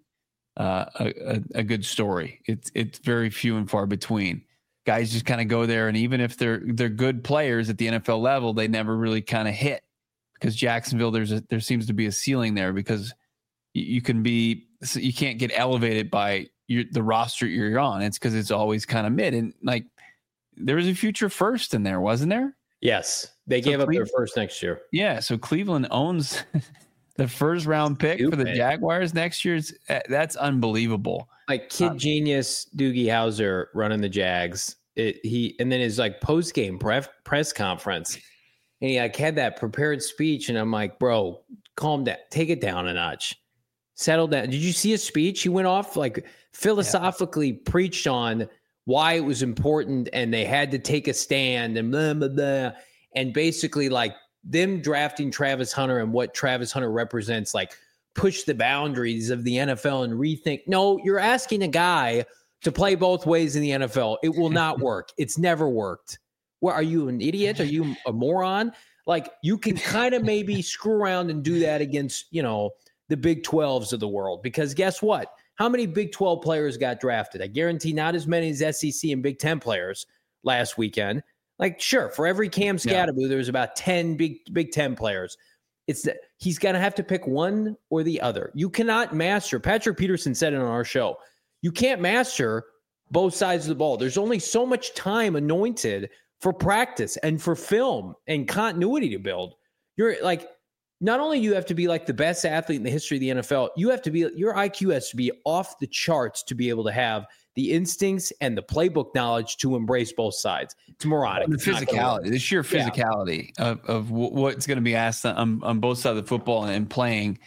a good story. It's very few and far between. Guys just kind of go there, and even if they're good players at the NFL level, they never really kind of hit, because Jacksonville, there seems to be a ceiling there, because you can't get elevated by the roster you're on. It's because it's always kind of mid, and there was a future first in there, wasn't there? Yes, they gave up their first next year. Yeah, so Cleveland owns the first round pick for the Jaguars next year. That's unbelievable. Kid genius Doogie Howser running the Jags. And then his post game press conference, and he had that prepared speech, and I'm like, bro, calm down, take it down a notch, settle down. Did you see his speech? He went off philosophically preached on why it was important and they had to take a stand and blah, blah, blah. And basically them drafting Travis Hunter and what Travis Hunter represents, push the boundaries of the NFL and rethink. No, you're asking a guy to play both ways in the NFL. It will not work. It's never worked. What, are you an idiot? Are you a moron? You can kind of maybe screw around and do that against, the Big 12s of the world, because guess what? How many Big 12 players got drafted? I guarantee not as many as SEC and Big 10 players last weekend. Sure, for every Cam Scatterbo, there was about 10 Big 10 players. He's going to have to pick one or the other. You cannot master. Patrick Peterson said it on our show. You can't master both sides of the ball. There's only so much time anointed for practice and for film and continuity to build. You're not only you have to be the best athlete in the history of the NFL, your IQ has to be off the charts to be able to have the instincts and the playbook knowledge to embrace both sides. It's moronic. The physicality, the sheer physicality of what's going to be asked on both sides of the football and playing,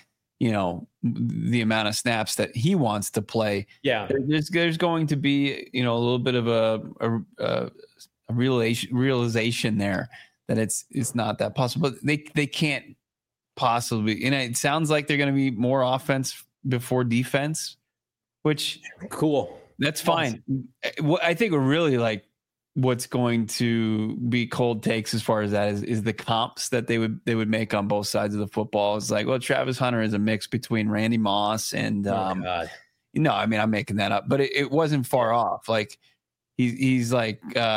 the amount of snaps that he wants to play. Yeah. There's going to be, a little bit of a realization there that it's not that possible. But they can't possibly, and it sounds like they're going to be more offense before defense, which cool. That's fine. I think we're really what's going to be cold takes as far as that is the comps that they would make on both sides of the football. It's Travis Hunter is a mix between Randy Moss and I'm making that up, but it wasn't far off. He's this,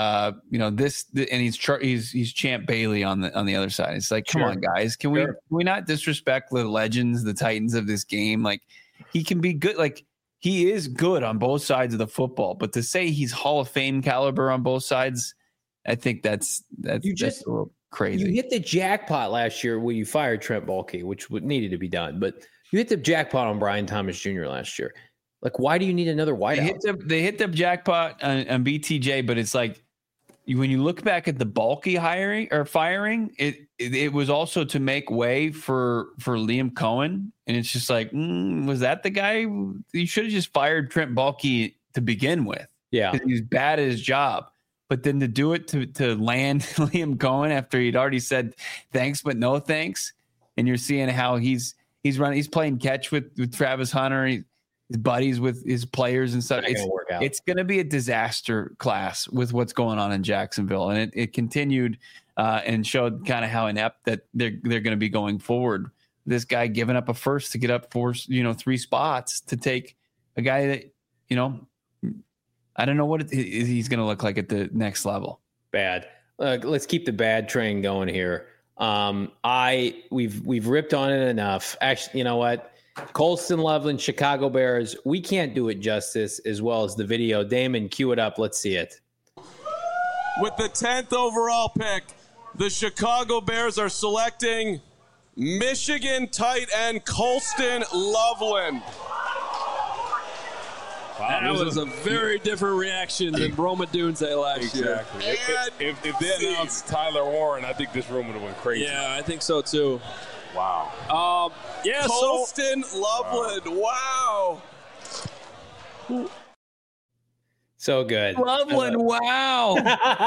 and he's Champ Bailey on the other side. It's come on, guys, can we not disrespect the legends, the titans of this game? He can be good. He is good on both sides of the football, but to say he's Hall of Fame caliber on both sides, I think that's a little crazy. You hit the jackpot last year when you fired Trent Baalke, which needed to be done, but you hit the jackpot on Brian Thomas Jr. last year. Why do you need another wideout? They hit the jackpot on BTJ, but it's when you look back at the Baalke hiring or firing, it was also to make way for Liam Cohen. And it's just was that the guy? You should have just fired Trent Baalke to begin with. Yeah. Because he's bad at his job. But then to do it to land Liam Cohen after he'd already said thanks, but no thanks. And you're seeing how he's playing catch with Travis Hunter. His buddies with his players and stuff. It's going to be a disaster class with what's going on in Jacksonville. And it continued and showed kind of how inept that they're going to be going forward. This guy giving up a first to get up 3 spots to take a guy that, I don't know what he's going to look like at the next level. Bad. Let's keep the bad train going here. We've ripped on it enough. Actually, you know what? Colston Loveland, Chicago Bears. We can't do it justice as well as the video. Damon, cue it up. Let's see it. With the 10th overall pick, the Chicago Bears are selecting Michigan tight end Colston Loveland. Wow, that was a very different reaction than Roma Dunze last year. If they announced Tyler Warren, I think this room would have went crazy. Yeah, I think so too. Wow. Colston Loveland. Wow. So good. Loveland, wow.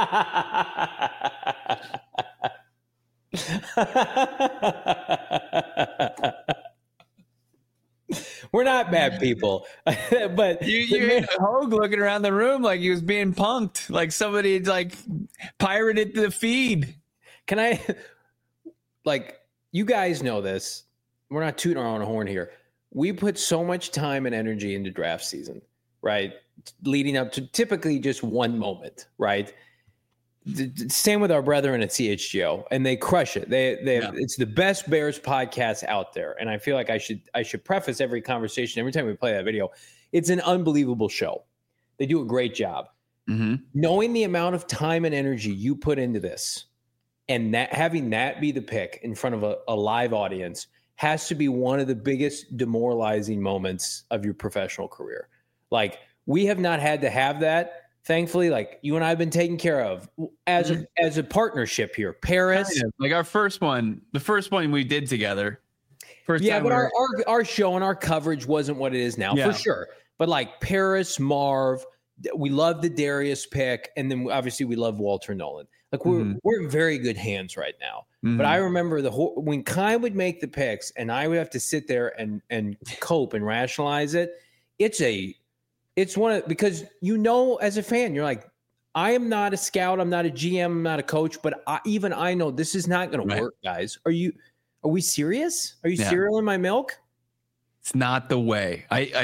We're not bad people, but you had Hogue looking around the room like he was being punked, like somebody had like pirated the feed. Can I, you guys know this. We're not tooting our own horn here. We put so much time and energy into draft season, right? Leading up to typically just one moment, right? Same with our brethren at CHGO, and they crush it. It's the best Bears podcast out there, and I feel like I should preface every conversation every time we play that video. It's an unbelievable show. They do a great job. Mm-hmm. Knowing the amount of time and energy you put into this, and that having that be the pick in front of a live audience has to be one of the biggest demoralizing moments of your professional career. Like, we have not had to have that. Thankfully, like, you and I have been taken care of as a partnership here. Paris, kind of. Like the first one we did together. But our show and our coverage wasn't what it is now, for sure. But like Paris, Marv, we love the Darius pick, and then obviously we love Walter Nolan. Like, we're in very good hands right now. Mm-hmm. But I remember when Kai would make the picks, and I would have to sit there and cope and rationalize it. It's because as a fan, you're like, I am not a scout, I'm not a GM, I'm not a coach, but I know this is not going to work, guys. Are we serious? Are you cereal in my milk? It's not the way.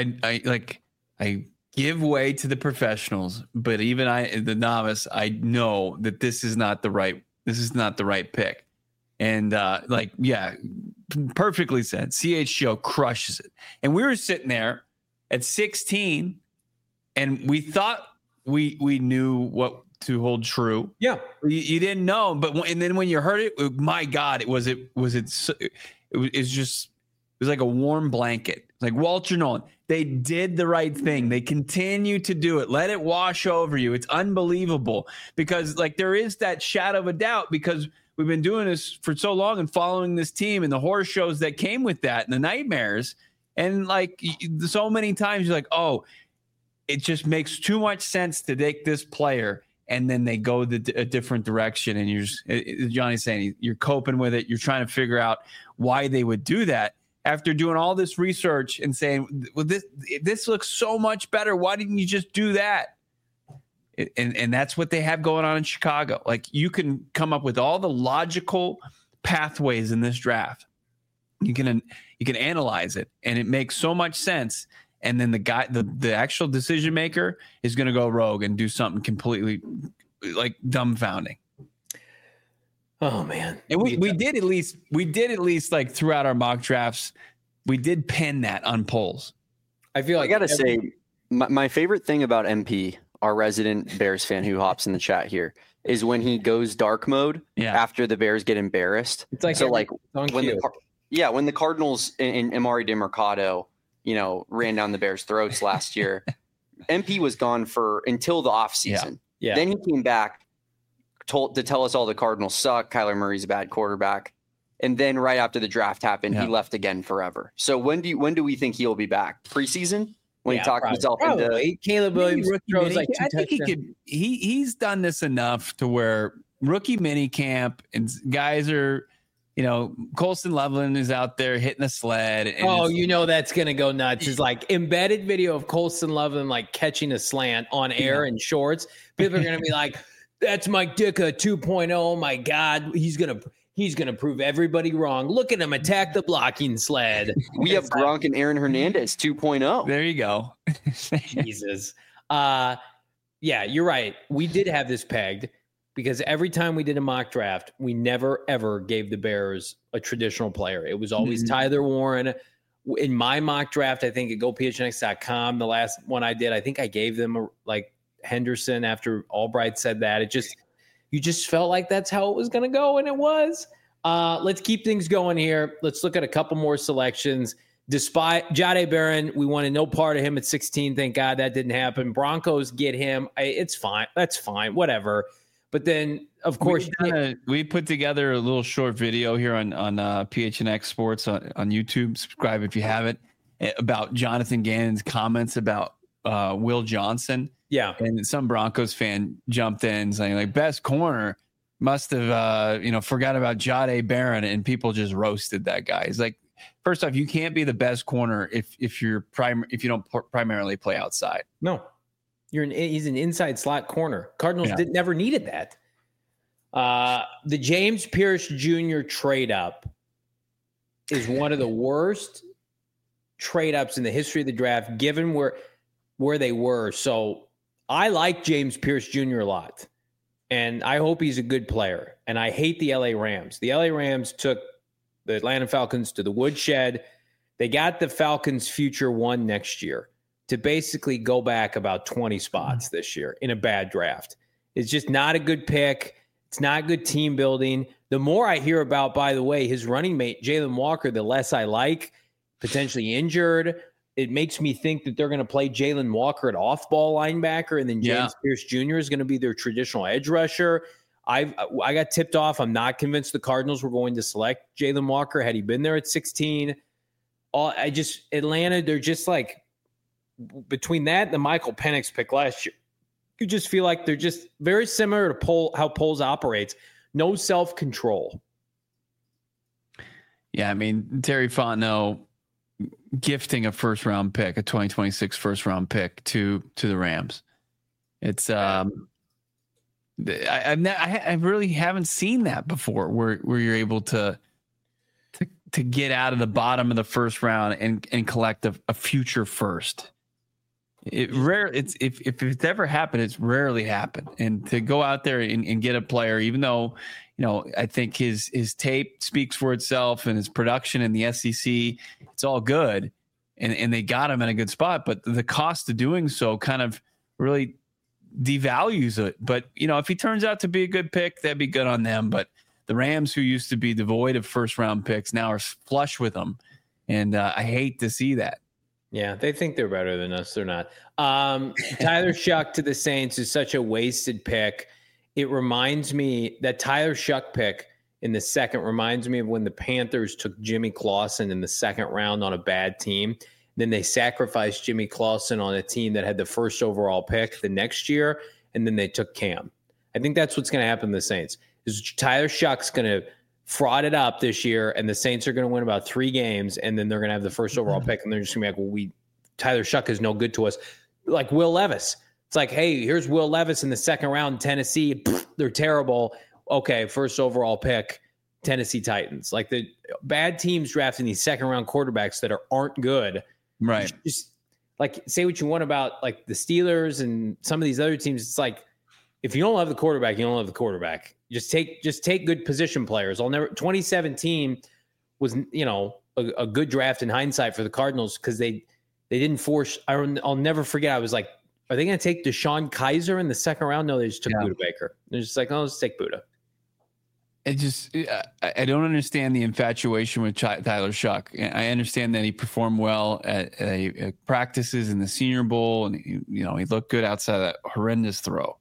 I give way to the professionals, but even the novice, I know that this is not the right pick. And perfectly said. CHGO crushes it. And we were sitting there at 16. And we thought we knew what to hold true. Yeah, you didn't know, and then when you heard it, my God, it was like a warm blanket. Like Walter Nolan, they did the right thing. They continue to do it. Let it wash over you. It's unbelievable because like there is that shadow of a doubt because we've been doing this for so long and following this team and the horror shows that came with that and the nightmares, and like so many times you're like, oh. It just makes too much sense to take this player, and then they go a different direction. And you're just, Johnny's saying, you're coping with it. You're trying to figure out why they would do that after doing all this research and saying, well, this looks so much better. Why didn't you just do that? And that's what they have going on in Chicago. Like, you can come up with all the logical pathways in this draft. You can analyze it, and it makes so much sense. And then the actual decision maker is going to go rogue and do something completely like dumbfounding. Oh man. And we did at least like throughout our mock drafts, we did pin that on polls. I feel like I got to say my favorite thing about MP, our resident Bears fan who hops in the chat here, is when he goes dark mode after the Bears get embarrassed. It's like, so like when the Cardinals and Amari DeMercado, ran down the Bears' throats last year. MP was gone until the offseason. Yeah. Then he came back to tell us all the Cardinals suck. Kyler Murray's a bad quarterback. And then right after the draft happened, he left again forever. So when do we think he'll be back? Preseason? When he talked himself into Caleb Williams throws like two touchdowns. He's done this enough to where rookie mini camp and guys are Colston Loveland is out there hitting a sled. And that's going to go nuts. It's like embedded video of Colston Loveland like catching a slant on air in shorts. People are going to be like, that's Mike Ditka 2.0. Oh my God. He's going to prove everybody wrong. Look at him attack the blocking sled. We have Gronk and Aaron Hernandez 2.0. There you go. Jesus. Yeah, you're right. We did have this pegged. Because every time we did a mock draft, we never, ever gave the Bears a traditional player. It was always Tyler Warren in my mock draft, I think at GoPHNX.com, the last one I did, I think I gave them Henderson after Albright said that. You just felt like that's how it was going to go, and it was. Let's keep things going here. Let's look at a couple more selections. Despite Jahdae Barron, we wanted no part of him at 16. Thank God that didn't happen. Broncos get him. It's fine. That's fine. Whatever. But then, of course, we put together a little short video here on PHNX Sports on YouTube. Subscribe if you haven't, about Jonathan Gannon's comments about Will Johnson. Yeah. And some Broncos fan jumped in saying, best corner must have, forgot about Jahdae Barron, and people just roasted that guy. He's like, first off, you can't be the best corner if you don't primarily play outside. No, he's an inside slot corner. Cardinals never needed that. The James Pierce Jr. trade up is one of the worst trade ups in the history of the draft, given where they were. So I like James Pierce Jr. a lot, and I hope he's a good player. And I hate the LA Rams. The LA Rams took the Atlanta Falcons to the woodshed. They got the Falcons' future one next year to basically go back about 20 spots this year in a bad draft. It's just not a good pick. It's not good team building. The more I hear about, by the way, his running mate, Jalen Walker, the less I like, potentially injured. It makes me think that they're going to play Jalen Walker at off-ball linebacker, and then James Pierce Jr. is going to be their traditional edge rusher. I got tipped off. I'm not convinced the Cardinals were going to select Jalen Walker had he been there at 16. Atlanta, they're just like, between that and the Michael Penix pick last year, you just feel like they're just very similar to how Poles operates. No self-control. Yeah, I mean, Terry Fontenot gifting a first-round pick, a 2026 first-round pick to the Rams. It's I really haven't seen that before, where you're able to get out of the bottom of the first round and collect a future first. If it's ever happened, it's rarely happened. And to go out there and get a player, even though, I think his tape speaks for itself and his production in the SEC, it's all good. And they got him in a good spot, but the cost of doing so kind of really devalues it. But, if he turns out to be a good pick, that'd be good on them. But the Rams, who used to be devoid of first round picks, now are flush with them. And I hate to see that. Yeah, they think they're better than us. They're not. Tyler Shuck to the Saints is such a wasted pick. It reminds me that Tyler Shuck pick in the second reminds me of when the Panthers took Jimmy Clausen in the second round on a bad team. Then they sacrificed Jimmy Clausen on a team that had the first overall pick the next year, and then they took Cam. I think that's what's going to happen to the Saints. Is Tyler Shuck's going to fraud it up this year, and the Saints are going to win about 3 games, and then they're going to have the first overall pick, and they're just going to be like, Tyler Shuck is no good to us. Like Will Levis. It's like, hey, here's Will Levis in the second round in Tennessee. They're terrible. Okay, first overall pick, Tennessee Titans. Like the bad teams drafting these second round quarterbacks that aren't good. Right. Just like say what you want about like the Steelers and some of these other teams. It's like, if you don't love the quarterback, you don't love the quarterback. Just take good position players. 2017 was, a good draft in hindsight for the Cardinals because they didn't force. I'll never forget. I was like, are they going to take Deshaun Kaiser in the second round? No, they just took Budda Baker. They're just like, oh, let's take Budda. I don't understand the infatuation with Tyler Shuck. I understand that he performed well at practices in the Senior Bowl, and he looked good outside that horrendous throw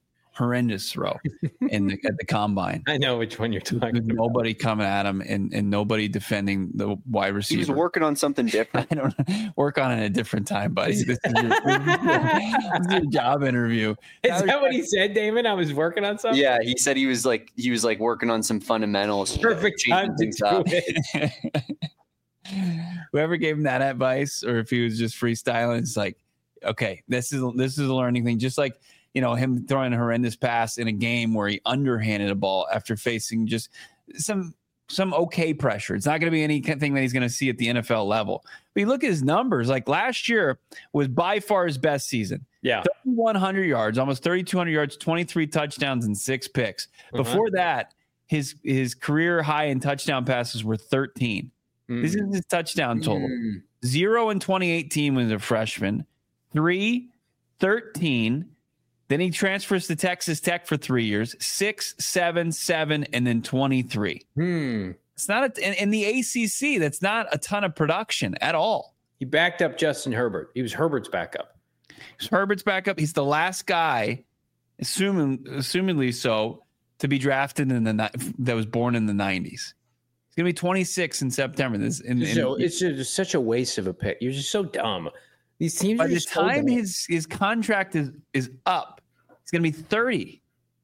at the combine. I know which one you're talking about. Nobody coming at him and nobody defending the wide receiver. He was working on something different. I don't work on it at a different time, buddy. This is your job interview. Is that what he said, Damon? I was working on something? Yeah, he said he was working on some fundamentals. Perfect time to do it. Whoever gave him that advice, or if he was just freestyling, it's like, okay, this is a learning thing. Just like, him throwing a horrendous pass in a game where he underhanded a ball after facing just some okay pressure. It's not going to be anything that he's going to see at the NFL level. But you look at his numbers, like last year was by far his best season. Yeah. 3,100 yards, almost 3,200 yards, 23 touchdowns, and 6 picks. Before that, his career high in touchdown passes were 13. This is his touchdown total. 0 in 2018 when he was a freshman, 3, 13. Then he transfers to Texas Tech for 3 years, 6, 7, 7, and then 23. It's not in the ACC. That's not a ton of production at all. He backed up Justin Herbert. He was Herbert's backup. He's the last guy, assumingly so, to be drafted that was born in the 90s. He's gonna be 26 in September. It's just such a waste of a pick. You're just so dumb. These teams. By the time his contract is up, he's gonna be 30.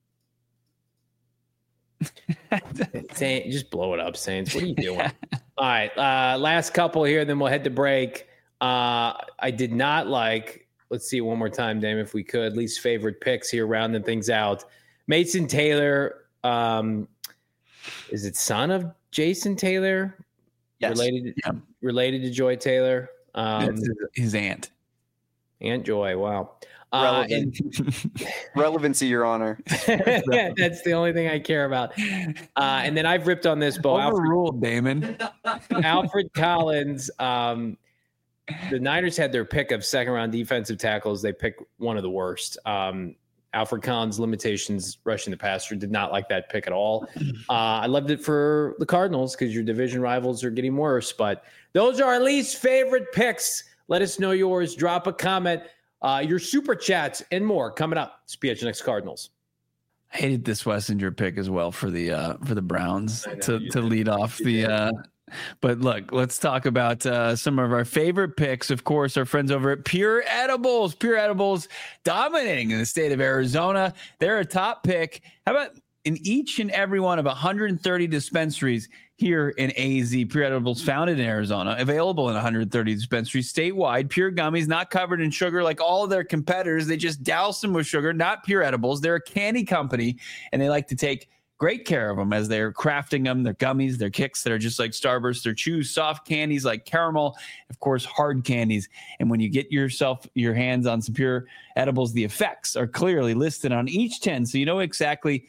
Just blow it up, Saints. What are you doing? All right, last couple here, then we'll head to break. I did not like. Let's see it one more time, Dame, if we could. Least favorite picks here, rounding things out. Mason Taylor, is it son of Jason Taylor? Yes. Related to Joy Taylor. His aunt. Aunt Joy. Wow. Relevancy, Your Honor. That's the only thing I care about. And then I've ripped on this, Bo. Overruled, Damon. Alfred Collins. The Niners had their pick of second-round defensive tackles. They picked one of the worst. Alfred Collins' limitations rushing the passer, did not like that pick at all. I loved it for the Cardinals because your division rivals are getting worse. But those are our least favorite picks. Let us know yours. Drop a comment. Your super chats and more coming up. It's PHNX Cardinals. I hated this Wessinger pick as well for the Browns to lead off the. But look, let's talk about some of our favorite picks. Of course, our friends over at Pure Edibles. Pure Edibles dominating in the state of Arizona. They're a top pick. How about in each and every one of 130 dispensaries here in AZ? Pure Edibles, founded in Arizona, available in 130 dispensaries statewide. Pure gummies, not covered in sugar like all of their competitors. They just douse them with sugar, not Pure Edibles. They're a candy company, and they like to take great care of them as they're crafting them. They're gummies, they're kicks that are just like Starburst. They're chews, soft candies like caramel, of course, hard candies. And when you get your hands on some Pure Edibles, the effects are clearly listed on each tin, so you know exactly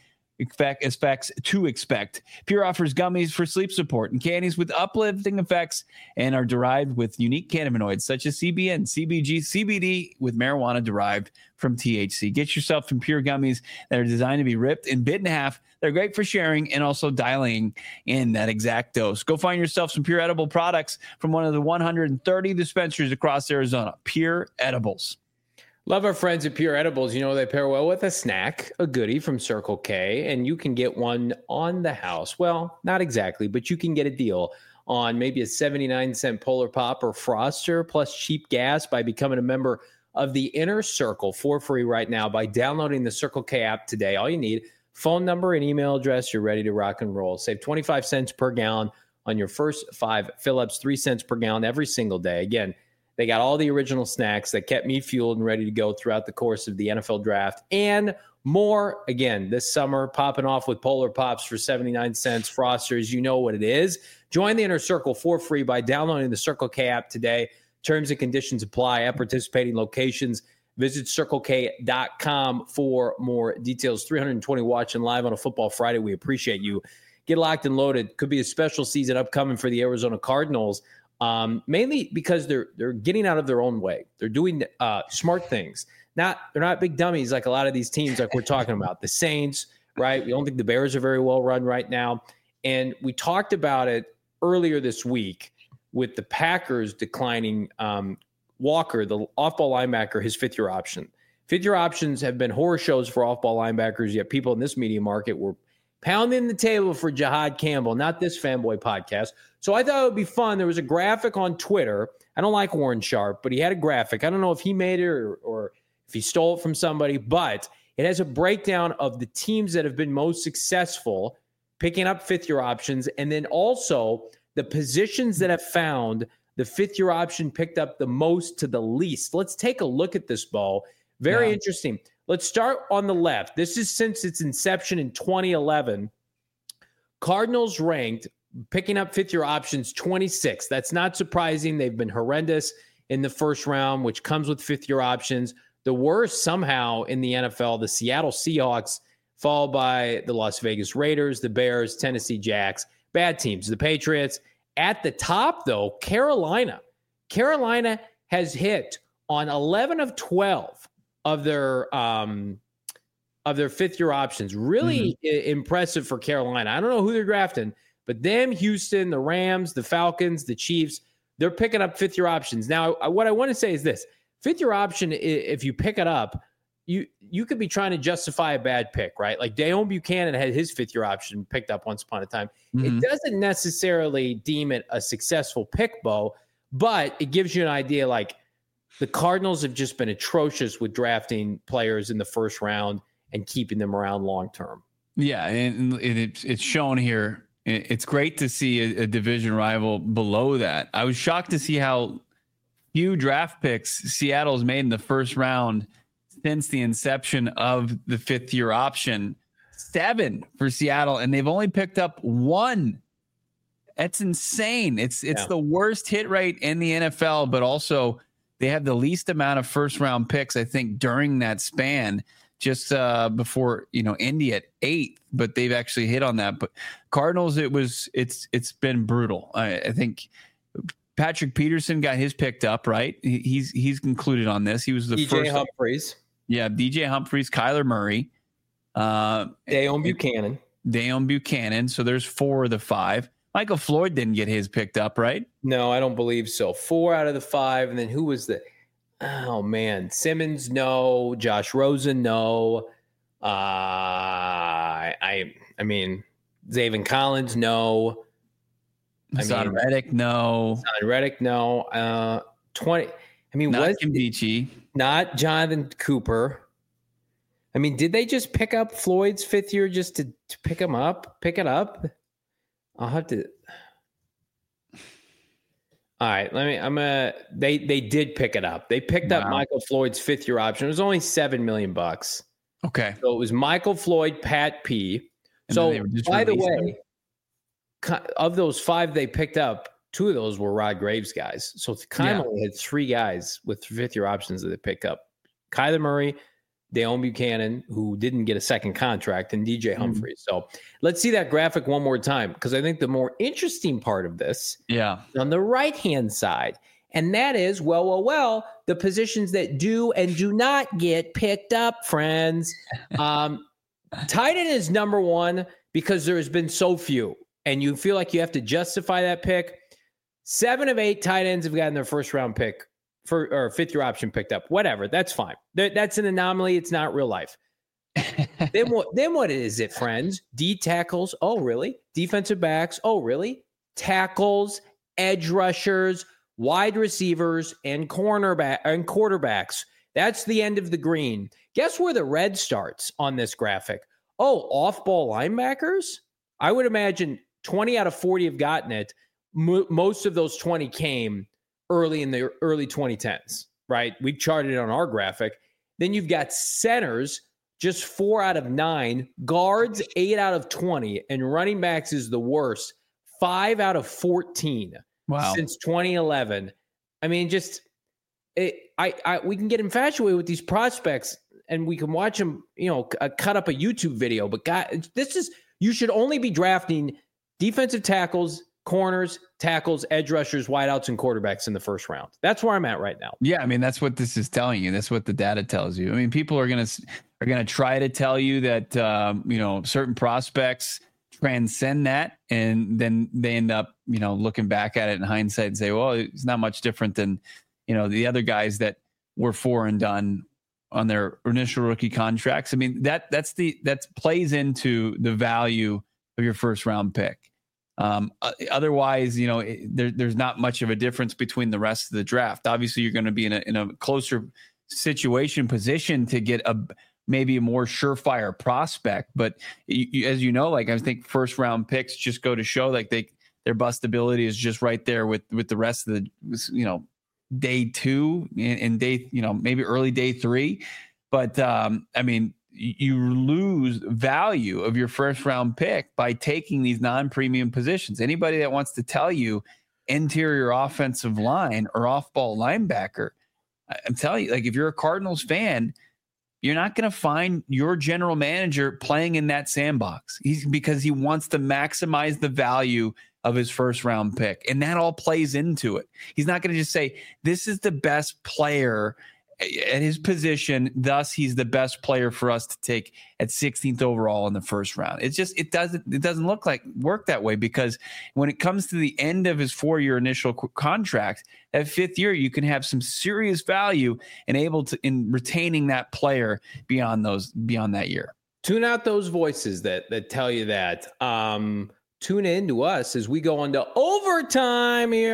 effects to expect. Pure offers gummies for sleep support and candies with uplifting effects and are derived with unique cannabinoids such as CBN, CBG, CBD with marijuana derived from THC. Get yourself some Pure gummies that are designed to be ripped and bit in half. They're great for sharing and also dialing in that exact dose. Go find yourself some Pure Edible products from one of the 130 dispensaries across Arizona. Pure Edibles. Love our friends at Pure Edibles. You know, they pair well with a snack, a goodie from Circle K, and you can get one on the house. Well, not exactly, but you can get a deal on maybe a 79-cent Polar Pop or Froster plus cheap gas by becoming a member of the Inner Circle for free right now by downloading the Circle K app today. All you need, phone number and email address. You're ready to rock and roll. Save 25 cents per gallon on your first 5 fill-ups, 3 cents per gallon every single day. Again, they got all the original snacks that kept me fueled and ready to go throughout the course of the NFL draft and more. Again, this summer, popping off with Polar Pops for 79 cents, Frosters. You know what it is. Join the Inner Circle for free by downloading the Circle K app today. Terms and conditions apply at participating locations. Visit CircleK.com for more details. 320 watching live on a Football Friday. We appreciate you. Get locked and loaded. Could be a special season upcoming for the Arizona Cardinals. Mainly because they're getting out of their own way. They're doing smart things. They're not big dummies like a lot of these teams like we're talking about. The Saints, right? We don't think the Bears are very well run right now. And we talked about it earlier this week with the Packers declining Walker, the off-ball linebacker, his fifth-year option. Fifth-year options have been horror shows for off-ball linebackers, yet people in this media market were pounding the table for Jahad Campbell, not this fanboy podcast. So I thought it would be fun. There was a graphic on Twitter. I don't like Warren Sharp, but he had a graphic. I don't know if he made it or if he stole it from somebody, but it has a breakdown of the teams that have been most successful picking up fifth-year options, and then also the positions that have found the fifth-year option picked up the most to the least. Let's take a look at this, Bo. Very interesting. Let's start on the left. This is since its inception in 2011. Cardinals ranked picking up fifth-year options 26. That's not surprising. They've been horrendous in the first round, which comes with fifth-year options. The worst somehow in the NFL, the Seattle Seahawks, followed by the Las Vegas Raiders, the Bears, Tennessee Jacks. Bad teams. The Patriots. At the top, though, Carolina. Carolina has hit on 11 of 12 of their fifth-year options. Really impressive for Carolina. I don't know who they're drafting, but them, Houston, the Rams, the Falcons, the Chiefs, they're picking up fifth-year options. Now, what I want to say is this. Fifth-year option, if you pick it up, you could be trying to justify a bad pick, right? Like Deone Buchanan had his fifth-year option picked up once upon a time. It doesn't necessarily deem it a successful pick, Bo, but it gives you an idea. Like the Cardinals have just been atrocious with drafting players in the first round and keeping them around long term. Yeah, and it's shown here. It's great to see a division rival below that. I was shocked to see how few draft picks Seattle's made in the first round since the inception of the fifth-year option. 7 for Seattle, and they've only picked up 1. That's insane. It's the worst hit rate in the NFL, but also they have the least amount of first-round picks, I think, during that span. Just before Indy at 8th, but they've actually hit on that. But Cardinals, it's been brutal. I think Patrick Peterson got his picked up, right? He's concluded on this. He was the first. DJ Humphries. Yeah, DJ Humphries, Kyler Murray, Deone Buchanan. So there's 4 of the 5. Michael Floyd didn't get his picked up, right? No, I don't believe so. 4 out of the 5, and then who was the? Oh man, Simmons, no. Josh Rosen, no. I mean, Zaven Collins, no. Hassan Reddick, no. 20. I mean, not Kimbichi, not Jonathan Cooper. I mean, did they just pick up Floyd's 5th year just to pick him up? Pick it up? I'll have to. All right, they did pick it up. They picked up Michael Floyd's 5th-year option. It was only $7 million. Okay. So it was Michael Floyd, Pat P. So by the way, of those 5 they picked up, 2 of those were Rod Graves guys. So only had 3 guys with 5th-year options that they picked up. Kyler Murray, Deone Buchanan, who didn't get a second contract, and DJ Humphries. So let's see that graphic one more time, because I think the more interesting part of this is on the right-hand side, and that is, the positions that do and do not get picked up, friends. Tight end is number 1 because there has been so few, and you feel like you have to justify that pick. 7 of 8 tight ends have gotten their first-round pick. Or 5th-year option picked up, whatever. That's fine. That's an anomaly. It's not real life. Then what is it, friends? D tackles. Oh, really? Defensive backs. Oh, really? Tackles, edge rushers, wide receivers, and quarterbacks. That's the end of the green. Guess where the red starts on this graphic? Oh, off-ball linebackers? I would imagine 20 out of 40 have gotten it. Most of those 20 came early in the early 2010s, right? We've charted it on our graphic. Then you've got centers, just 4 out of 9, guards, 8 out of 20, and running backs is the worst, 5 out of 14 since 2011. I mean, we can get infatuated with these prospects and we can watch them, cut up a YouTube video, but you should only be drafting defensive tackles, corners, tackles, edge rushers, wideouts, and quarterbacks in the first round. That's where I'm at right now. Yeah, I mean, that's what this is telling you. That's what the data tells you. I mean, people are gonna try to tell you that certain prospects transcend that, and then they end up looking back at it in hindsight and say, well, it's not much different than the other guys that were 4 and done on their initial rookie contracts. I mean, that plays into the value of your first round pick. Otherwise, there's not much of a difference between the rest of the draft. Obviously, you're going to be in a closer position to get maybe a more surefire prospect. But as you know, I think first round picks just go to show their bustability is just right there with the rest of the day 2 and day maybe early day 3. But I mean, you lose value of your first round pick by taking these non-premium positions. Anybody that wants to tell you interior offensive line or off-ball linebacker, I'm telling you, if you're a Cardinals fan, you're not going to find your general manager playing in that sandbox. Because he wants to maximize the value of his first round pick. And that all plays into it. He's not going to just say, this is the best player at his position, thus he's the best player for us to take at 16th overall in the first round. It's just, it doesn't work that way, because when it comes to the end of his 4-year initial contract, that 5th year, you can have some serious value in retaining that player beyond that year. Tune out those voices that tell you that. Tune in to us as we go into overtime here.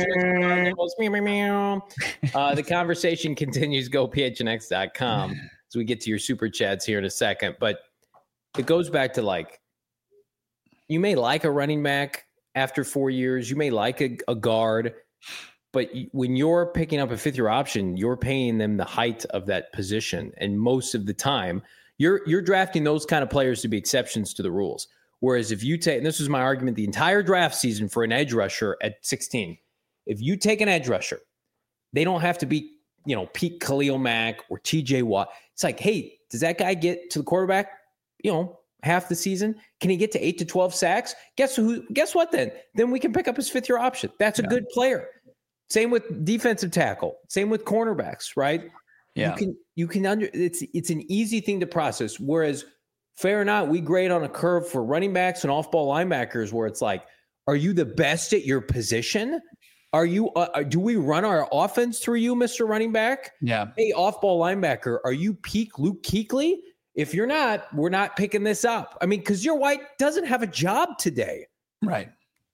The conversation continues. Go phnx.com as we get to your super chats here in a second. But it goes back to, you may like a running back after 4 years. You may like a guard. But when you're picking up a 5th-year option, you're paying them the height of that position. And most of the time, you're drafting those kind of players to be exceptions to the rules. Whereas if you take, and this was my argument the entire draft season for an edge rusher at 16, if you take an edge rusher, they don't have to be, peak Khalil Mack or TJ Watt. It's like, hey, does that guy get to the quarterback, half the season? Can he get to 8 to 12 sacks? Guess what then? Then we can pick up his 5th-year option. That's a good player. Same with defensive tackle. Same with cornerbacks, right? Yeah. It's an easy thing to process. Whereas, fair or not, we grade on a curve for running backs and off-ball linebackers where it's like, are you the best at your position? Are you? Do we run our offense through you, Mr. Running Back? Yeah. Hey, off-ball linebacker, are you peak Luke Kuechly? If you're not, we're not picking this up. I mean, because your White doesn't have a job today. Right.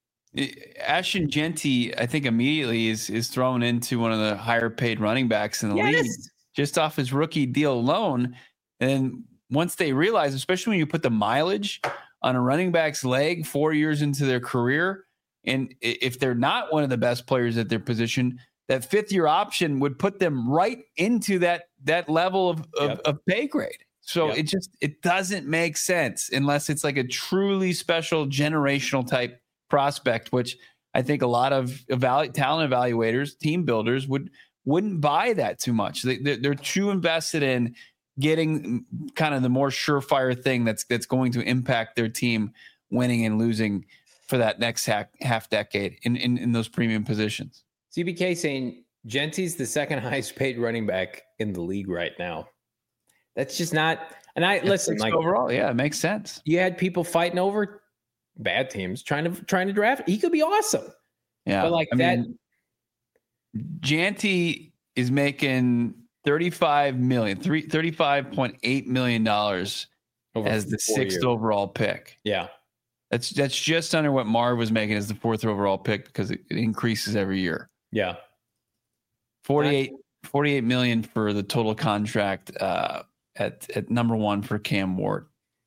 Ashton Jeanty, I think, immediately is thrown into one of the higher-paid running backs in the league just off his rookie deal alone. And once they realize, especially when you put the mileage on a running back's leg 4 years into their career, and if they're not one of the best players at their position, that 5th-year option would put them right into that level of pay grade. So it doesn't make sense unless it's like a truly special generational type prospect, which I think a lot of talent evaluators, team builders wouldn't buy that too much. They're too invested in getting kind of the more surefire thing that's going to impact their team winning and losing for that next half decade in those premium positions. CBK saying Jeanty's the second highest paid running back in the league right now. That's just not. And listen, overall, it makes sense. You had people fighting over bad teams trying to draft. He could be awesome. Yeah, but Jeanty is making $35.8 million as the 6th overall pick. Yeah. That's just under what Marv was making as the 4th overall pick, because it increases every year. Yeah. 48 million for the total contract at number 1 for Cam Ward.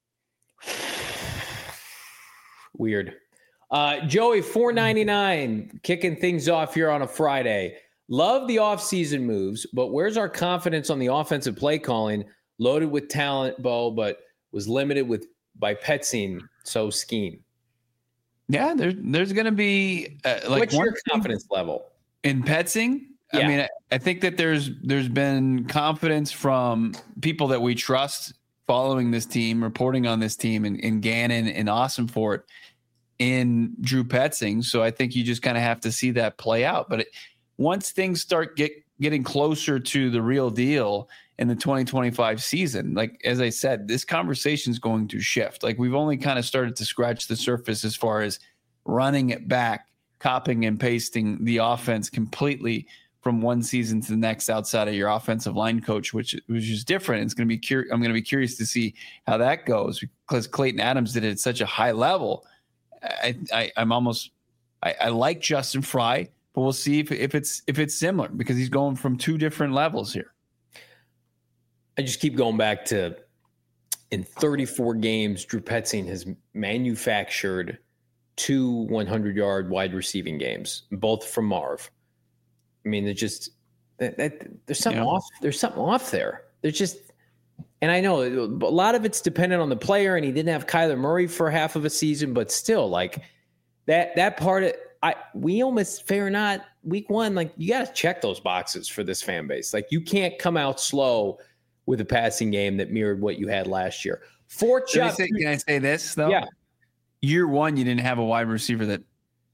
Weird. Joey, $4.99 kicking things off here on a Friday. Love the offseason moves, but where's our confidence on the offensive play calling? Loaded with talent, Bo, but was limited by Petzing, so scheme. Yeah, there's going to be what's your confidence level in Petzing? Yeah. I mean, I think that there's been confidence from people that we trust following this team, reporting on this team, in Gannon and Ossenfort, in Drew Petzing. So I think you just kind of have to see that play out. But once things start getting closer to the real deal in the 2025 season, like, as I said, this conversation is going to shift. Like, we've only kind of started to scratch the surface as far as running it back, copying and pasting the offense completely from one season to the next outside of your offensive line coach, which is different. It's going to be I'm going to be curious to see how that goes, because Clayton Adams did it at such a high level. I like Justin Fry, but we'll see if it's similar, because he's going from 2 different levels here. I just keep going back to, in 34 games, Drew Petzing has manufactured 2 100-yard wide receiving games, both from Marv. I mean, there's something off. There's something off there. There's just, and I know a lot of it's dependent on the player, and he didn't have Kyler Murray for half of a season, but still, like, that part of we almost, fair or not, week 1, like, you got to check those boxes for this fan base. Like, you can't come out slow with a passing game that mirrored what you had last year. Can I say this though? Yeah. Year 1, you didn't have a wide receiver that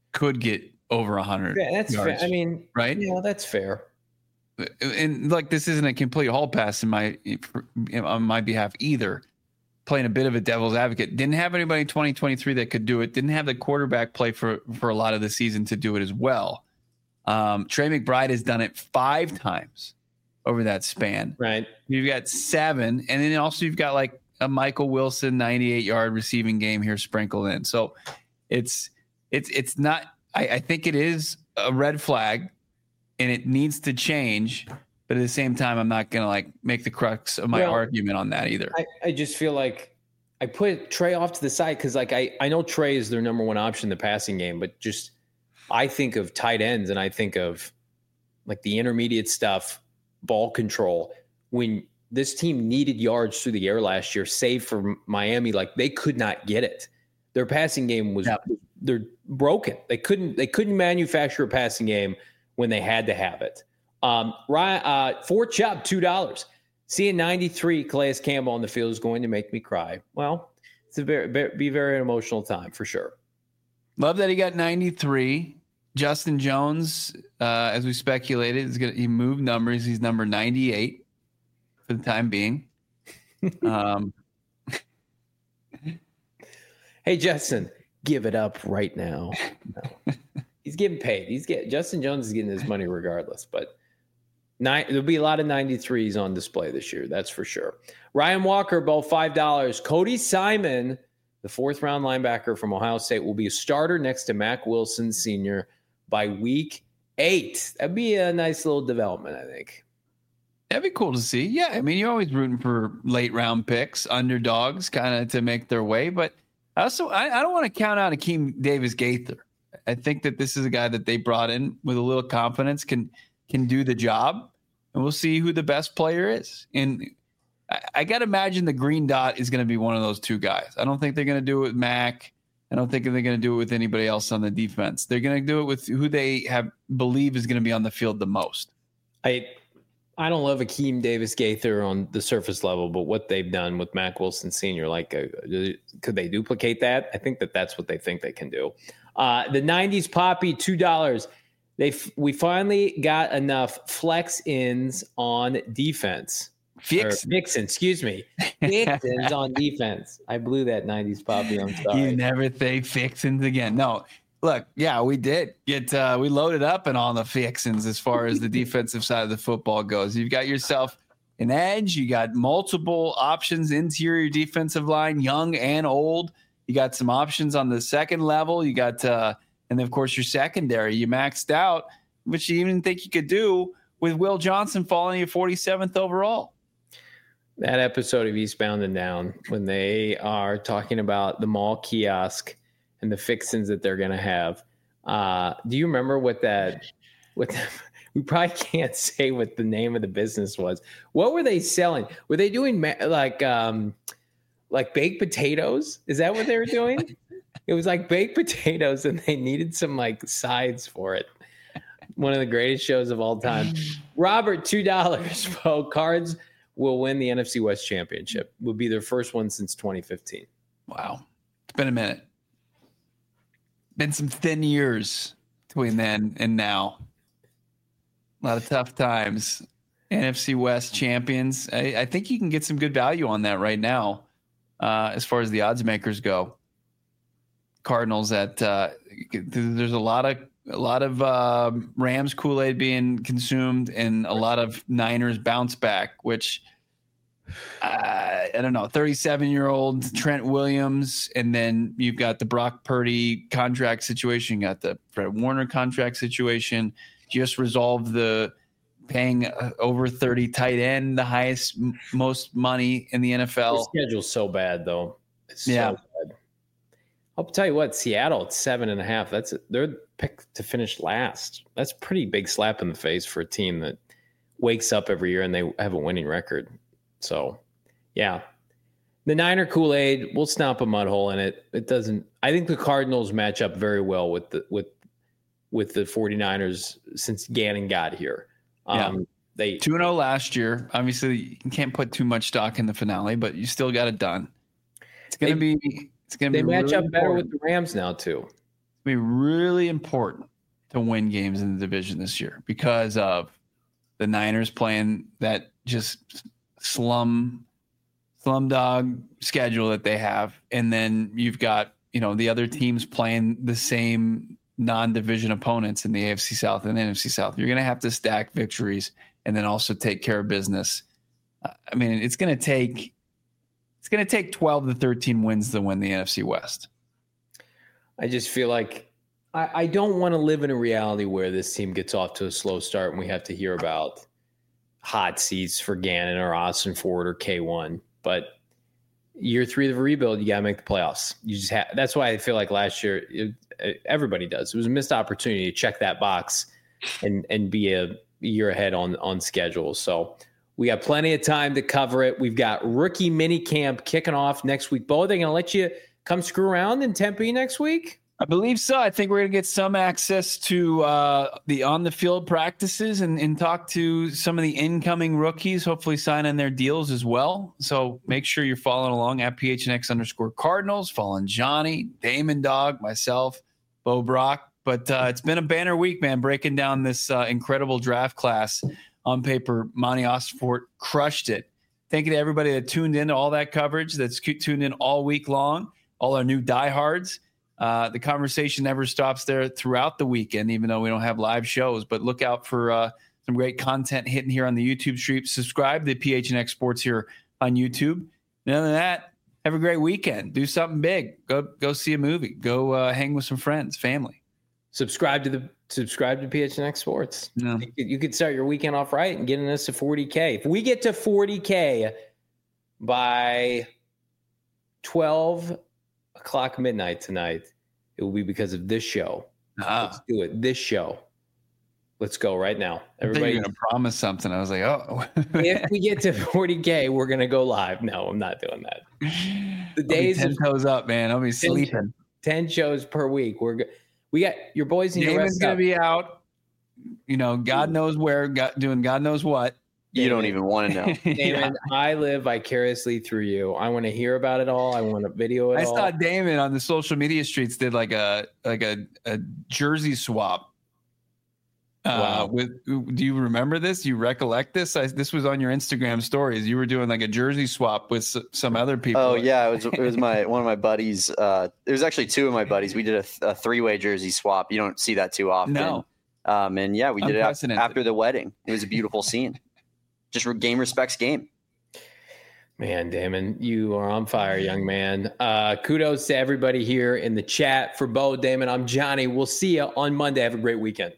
could get over 100. Yeah, that's yards, fair. I mean, right? Yeah, that's fair. And like, this isn't a complete hall pass on my behalf either. Playing a bit of a devil's advocate. Didn't have anybody in 2023 that could do it. Didn't have the quarterback play for a lot of the season to do it as well. Trey McBride has done it 5 times over that span. Right. You've got 7. And then also you've got like a Michael Wilson 98-yard receiving game here sprinkled in. So it's not, I think it is a red flag and it needs to change. But at the same time, I'm not going to like make the crux of my argument on that either. I just feel like I put Trey off to the side because like I know Trey is their number one option in the passing game, but just I think of tight ends and I think of like the intermediate stuff, ball control. When this team needed yards through the air last year, save for Miami, like they could not get it. Their passing game was they're broken. They couldn't manufacture a passing game when they had to have it. Fort Chubb, $2. Seeing 93 Calais Campbell on the field is going to make me cry. Well, it's a very emotional time for sure. Love that he got 93. Justin Jones, as we speculated, he moved numbers. He's number 98 for the time being. Hey, Justin, give it up right now. No. He's getting paid. Justin Jones is getting his money regardless, but there'll be a lot of 93s on display this year. That's for sure. Ryan Walker, both $5. Cody Simon, the 4th-round linebacker from Ohio State, will be a starter next to Mack Wilson Sr. by week 8. That'd be a nice little development, I think. That'd be cool to see. Yeah, I mean, you're always rooting for late-round picks, underdogs, kind of to make their way. But I don't want to count out Akeem Davis-Gaither. I think that this is a guy that they brought in with a little confidence, can do the job, and we'll see who the best player is. And I got to imagine the green dot is going to be one of those 2 guys. I don't think they're going to do it with Mac. I don't think they're going to do it with anybody else on the defense. They're going to do it with who they believe is going to be on the field the most. I don't love Akeem Davis-Gaither on the surface level, but what they've done with Mack Wilson Sr., could they duplicate that? I think that's what they think they can do. The 90s Poppy, $2. We finally got enough flex ins on defense. Vixen, excuse me. Vixens on defense. I blew that 90s Poppy. I'm sorry. You never say Vixens again. No, look, yeah, we did get we loaded up and on the Vixens as far as the defensive side of the football goes. You've got yourself an edge. You got multiple options, interior defensive line, young and old. You got some options on the second level. You got and then, of course, your secondary, you maxed out, which you even think you could do with Will Johnson falling at 47th overall. That episode of Eastbound and Down, when they are talking about the mall kiosk and the fixins that they're going to have. Do you remember what we probably can't say what the name of the business was. What were they selling? Were they doing like baked potatoes? Is that what they were doing? It was like baked potatoes, and they needed some like sides for it. One of the greatest shows of all time. Robert, $2. Bo, Cards will win the NFC West Championship. Will be their first one since 2015. Wow. It's been a minute. Been some thin years between then and now. A lot of tough times. NFC West champions. I think you can get some good value on that right now as far as the odds makers go. Cardinals there's a lot of Rams Kool-Aid being consumed and a lot of Niners bounce back, which I don't know, 37-year-old Trent Williams, and then you've got the Brock Purdy contract situation, you got the Fred Warner contract situation, just resolved the paying over 30 tight end, the highest, most money in the NFL. The schedule's so bad, though. It's so yeah. bad. I'll tell you what, Seattle at 7.5. They're picked to finish last. That's a pretty big slap in the face for a team that wakes up every year and they have a winning record. So, yeah, the Niner Kool-Aid, we'll stomp a mud hole in it. It doesn't. I think the Cardinals match up very well with the 49ers since Gannon got here. They 2-0 last year. Obviously, you can't put too much stock in the finale, but you still got it done. It's gonna be. They match really up better important with the Rams now too. be really important to win games in the division this year because of the Niners playing that just slumdog schedule that they have. And then you've got, the other teams playing the same non-division opponents in the AFC South and NFC South. You're going to have to stack victories and then also take care of business. It's going to take 12 to 13 wins to win the NFC West. I just feel like I don't want to live in a reality where this team gets off to a slow start and we have to hear about hot seats for Gannon or Austin Ford or K1. But year 3 of the rebuild, you got to make the playoffs. You just that's why I feel like last year everybody does. It was a missed opportunity to check that box and be a year ahead on schedule. So we got plenty of time to cover it. We've got rookie mini camp kicking off next week. Bo, are they going to let you come screw around in Tempe next week? I believe so. I think we're going to get some access to the on-the-field practices and talk to some of the incoming rookies, hopefully sign in their deals as well. So make sure you're following along at PHNX_Cardinals, following Johnny, Damon Dog, myself, Bo Brock. But it's been a banner week, man, breaking down this incredible draft class. On paper, Monty Ossenfort crushed it. Thank you to everybody that tuned in to all that coverage, that's tuned in all week long, all our new diehards. The conversation never stops there throughout the weekend, even though we don't have live shows. But look out for some great content hitting here on the YouTube stream. Subscribe to PHNX Sports here on YouTube. And other than that, have a great weekend. Do something big. Go see a movie. Go hang with some friends, family. Subscribe to PHNX Sports. No. You could start your weekend off right and getting us to 40K. If we get to 40K by 12 o'clock midnight tonight, it will be because of this show. Let's do it. This show. Let's go right now. Everybody, you're going to promise something. I was like, oh. If we get to 40K, we're going to go live. No, I'm not doing that. The days 10 toes up, man. I'll be sleeping. 10 shows per week. We got your boys need to rest. Damon's going to be out. God knows where, doing God knows what. You don't even want to know. Damon, I live vicariously through you. I want to hear about it all. I want to video it all. I saw Damon on the social media streets did like a jersey swap. Wow. Do you remember this? You recollect this? This was on your Instagram stories. You were doing like a jersey swap with some other people. Oh yeah, it was one of my buddies. It was actually two of my buddies. We did a 3-way jersey swap. You don't see that too often. No. And yeah, we did it after the wedding. It was a beautiful scene. Just game respects game. Man, Damon, you are on fire, young man. Kudos to everybody here in the chat. For Bo, Damon, I'm Johnny. We'll see you on Monday. Have a great weekend.